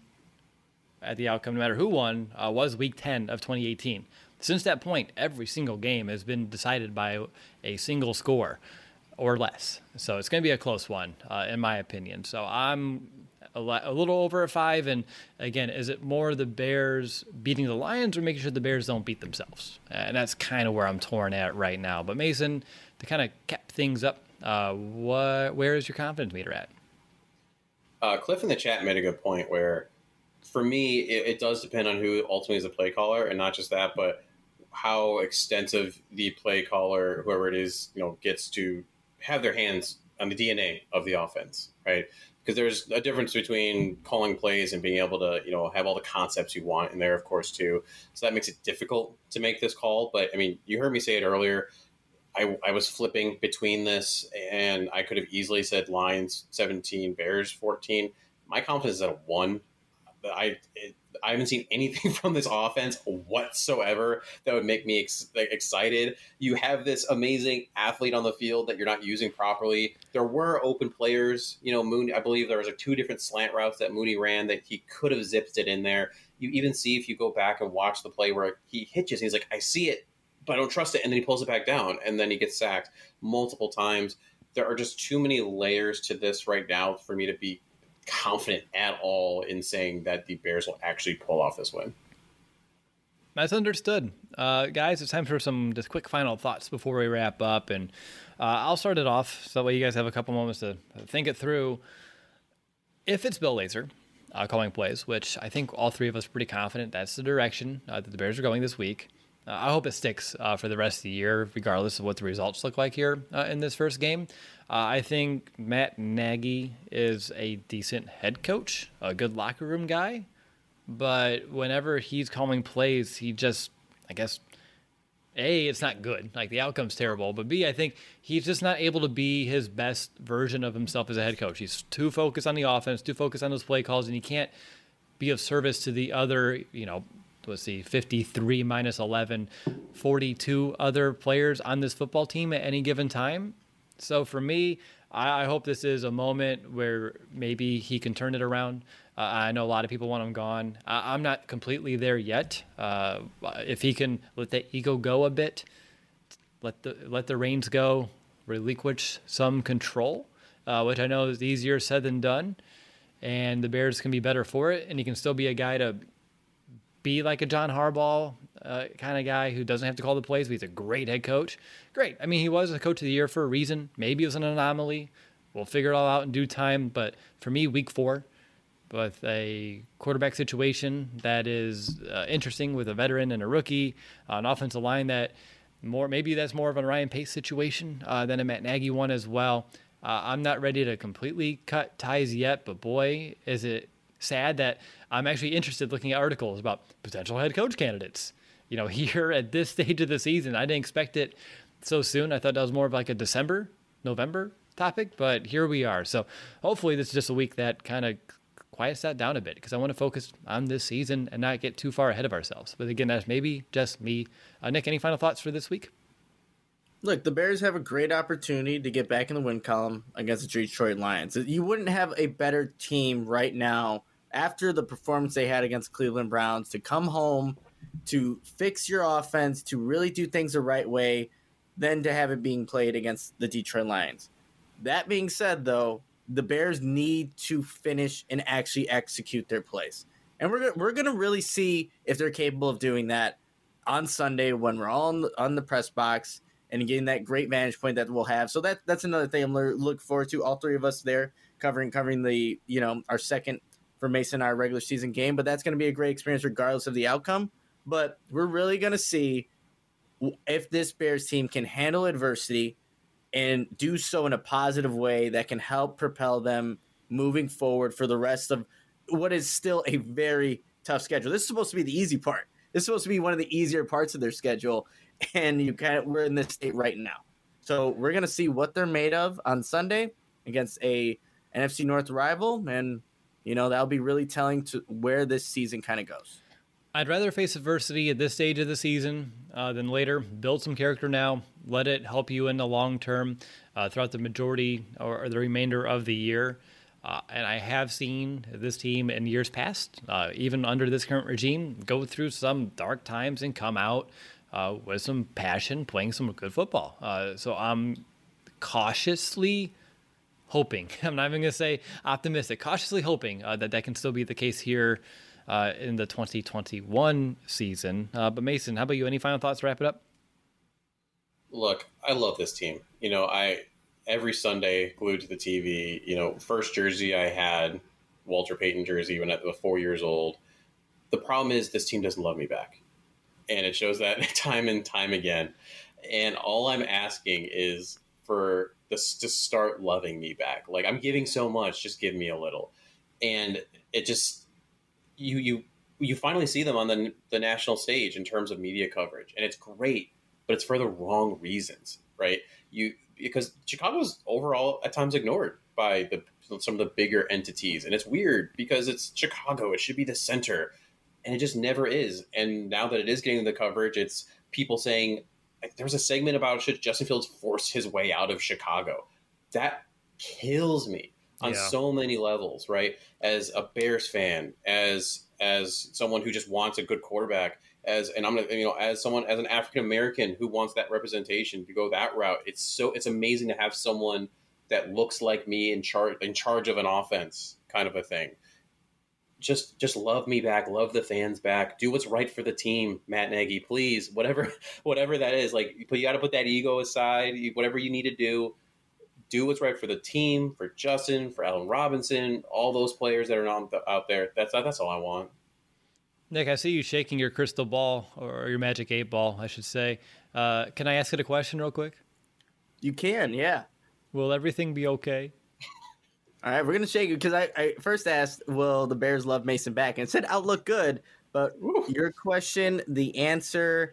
at the outcome, no matter who won, uh, was Week ten of twenty eighteen. Since that point, every single game has been decided by a single score or less. So it's going to be a close one, uh, in my opinion. So I'm A, a little over a five, and again, is it more the Bears beating the Lions or making sure the Bears don't beat themselves? And that's kind of where I'm torn at right now. But Mason, to kind of cap things up, uh, what, where is your confidence meter at? Uh, Cliff in the chat made a good point where, for me, it, it does depend on who ultimately is the play caller, and not just that, but how extensive the play caller, whoever it is, you know, gets to have their hands on the D N A of the offense, right? Because there's a difference between calling plays and being able to, you know, have all the concepts you want in there, of course, too. So that makes it difficult to make this call. But, I mean, you heard me say it earlier. I, I was flipping between this, and I could have easily said Lions seventeen, Bears fourteen. My confidence is at a one. I it, I haven't seen anything from this offense whatsoever that would make me ex- excited. You have this amazing athlete on the field that you're not using properly. There were open players. You know, Mooney, I believe there was like two different slant routes that Mooney ran that he could have zipped it in there. You even see, if you go back and watch the play where he hitches, he's like, I see it, but I don't trust it. And then he pulls it back down, and then he gets sacked multiple times. There are just too many layers to this right now for me to be confident at all in saying that the Bears will actually pull off this win. That's understood. Uh, guys, it's time for some just quick final thoughts before we wrap up. And uh, I'll start it off so that way you guys have a couple moments to think it through. If it's Bill Lazor uh, calling plays, which I think all three of us are pretty confident that's the direction uh, that the Bears are going this week, uh, I hope it sticks uh, for the rest of the year, regardless of what the results look like here uh, in this first game. Uh, I think Matt Nagy is a decent head coach, a good locker room guy. But whenever he's calling plays, he just, I guess, A, it's not good. Like, the outcome's terrible. But B, I think he's just not able to be his best version of himself as a head coach. He's too focused on the offense, too focused on those play calls, and he can't be of service to the other, you know, let's see, fifty-three minus eleven, forty-two other players on this football team at any given time. So for me, I, I hope this is a moment where maybe he can turn it around. Uh, I know a lot of people want him gone. I, I'm not completely there yet. Uh, if he can let the ego go a bit, let the let the reins go, relinquish some control, uh, which I know is easier said than done, and the Bears can be better for it, and he can still be a guy to be like a John Harbaugh uh, kind of guy who doesn't have to call the plays, but he's a great head coach. Great. I mean, he was a coach of the year for a reason. Maybe it was an anomaly. We'll figure it all out in due time. But for me, week four, with a quarterback situation that is uh, interesting with a veteran and a rookie, uh, an offensive line that more maybe that's more of a Ryan Pace situation uh, than a Matt Nagy one as well. Uh, I'm not ready to completely cut ties yet, but boy, is it sad that I'm actually interested looking at articles about potential head coach candidates. You know, here at this stage of the season, I didn't expect it so soon. I thought that was more of like a December, November topic, but here we are. So hopefully this is just a week that kind of quiets that down a bit, because I want to focus on this season and not get too far ahead of ourselves. But again, that's maybe just me. Uh, Nick, any final thoughts for this week? Look, the Bears have a great opportunity to get back in the win column against the Detroit Lions. You wouldn't have a better team right now after the performance they had against Cleveland Browns to come home, to fix your offense, to really do things the right way, than to have it being played against the Detroit Lions. That being said, though, the Bears need to finish and actually execute their plays. And we're, we're going to really see if they're capable of doing that on Sunday when we're all on the, on the press box and getting that great vantage point that we'll have. So that that's another thing I'm looking forward to. All three of us there covering covering the, you know, our second for Mason, our regular season game. But that's going to be a great experience regardless of the outcome. But we're really going to see if this Bears team can handle adversity and do so in a positive way that can help propel them moving forward for the rest of what is still a very tough schedule. This is supposed to be the easy part. This is supposed to be one of the easier parts of their schedule, and you kind of we're in this state right now. So we're going to see what they're made of on Sunday against a N F C North rival, and you know that'll be really telling to where this season kind of goes. I'd rather face adversity at this stage of the season uh, than later. Build some character now. Let it help you in the long term uh, throughout the majority or, or the remainder of the year. Uh, and I have seen this team in years past, uh, even under this current regime, go through some dark times and come out uh, with some passion, playing some good football. Uh, so I'm cautiously hoping, I'm not even going to say optimistic, cautiously hoping uh, that that can still be the case here uh, in the twenty twenty-one season. Uh, but Mason, how about you? Any final thoughts to wrap it up? Look, I love this team. You know, I... Every Sunday, glued to the T V, you know, first jersey I had, Walter Payton jersey when I was four years old. The problem is this team doesn't love me back. And it shows that time and time again. And all I'm asking is for this to start loving me back. Like, I'm giving so much, just give me a little. And it just, you you you finally see them on the, the national stage in terms of media coverage. And it's great, but it's for the wrong reasons, right? You Because Chicago's overall at times ignored by the some of the bigger entities. And it's weird because it's Chicago. It should be the center. And it just never is. And now that it is getting the coverage, it's people saying, like, there was a segment about should Justin Fields force his way out of Chicago. That kills me on yeah. so many levels, right? As a Bears fan, as as someone who just wants a good quarterback, as and I'm gonna you know as someone as an African American who wants that representation to go that route. It's so it's amazing to have someone that looks like me in charge in charge of an offense, kind of a thing. Just just love me back, love the fans back, do what's right for the team, Matt Nagy, please. Whatever whatever that is, like you got to put that ego aside. Whatever you need to do, do what's right for the team, for Justin, for Allen Robinson, all those players that are on the, out there. That's that's all I want. Nick, I see you shaking your crystal ball, or your magic eight ball, I should say. Uh, can I ask it a question real quick? You can, yeah. Will everything be okay? All right, we're going to shake it because I, I first asked, will the Bears love Mason back? And it said, I'll look good. But Ooh. Your question, the answer,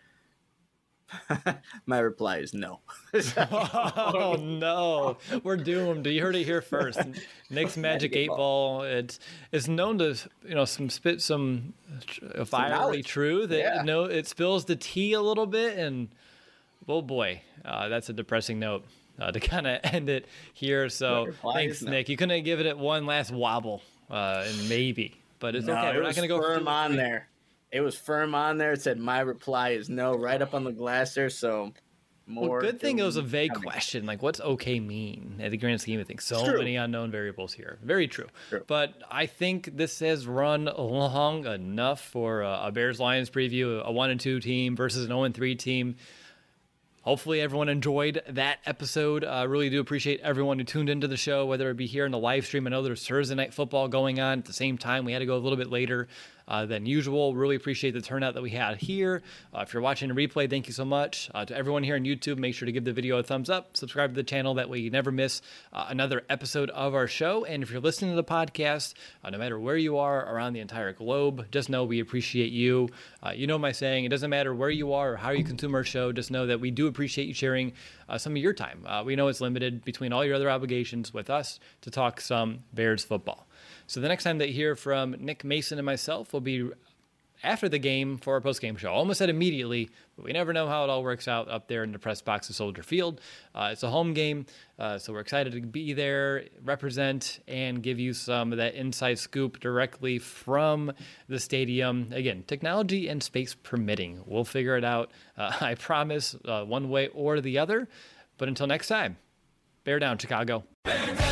my reply is no. Oh, no. We're doomed. You heard it here first. Nick's magic eight ball, it's it's known to, you know, some spit some fiery truth. It, yeah. you know, it spills the tea a little bit, and oh boy, uh, that's a depressing note uh, to kind of end it here. So thanks, no. Nick. You couldn't give it one last wobble, uh, and maybe, but it's no, okay. It We're not going to go firm on there. It was firm on there. It said my reply is no, right up on the glass there. So more. Well, good thing it was a vague coming. question. Like, what's okay mean at the grand scheme of things? So many unknown variables here. Very true. true. But I think this has run long enough for a, a Bears-Lions preview, a one and two team versus an oh and three team. Hopefully everyone enjoyed that episode. I uh, really do appreciate everyone who tuned into the show, whether it be here in the live stream. I know there's Thursday Night Football going on at the same time. We had to go a little bit later uh, than usual. Really appreciate the turnout that we had here. Uh, if you're watching a replay, thank you so much. Uh, to everyone here on YouTube, make sure to give the video a thumbs up. Subscribe to the channel. That way you never miss uh, another episode of our show. And if you're listening to the podcast, uh, no matter where you are around the entire globe, just know we appreciate you. Uh, you know my saying, it doesn't matter where you are or how you consume our show. Just know that we do appreciate you sharing uh, some of your time. Uh, we know it's limited between all your other obligations with us to talk some Bears football. So the next time that you hear from Nick Mason and myself will be after the game for our post-game show. I almost said immediately, but we never know how it all works out up there in the press box of Soldier Field. Uh, it's a home game, uh, so we're excited to be there, represent, and give you some of that inside scoop directly from the stadium. Again, technology and space permitting. We'll figure it out, uh, I promise, uh, one way or the other. But until next time, bear down, Chicago.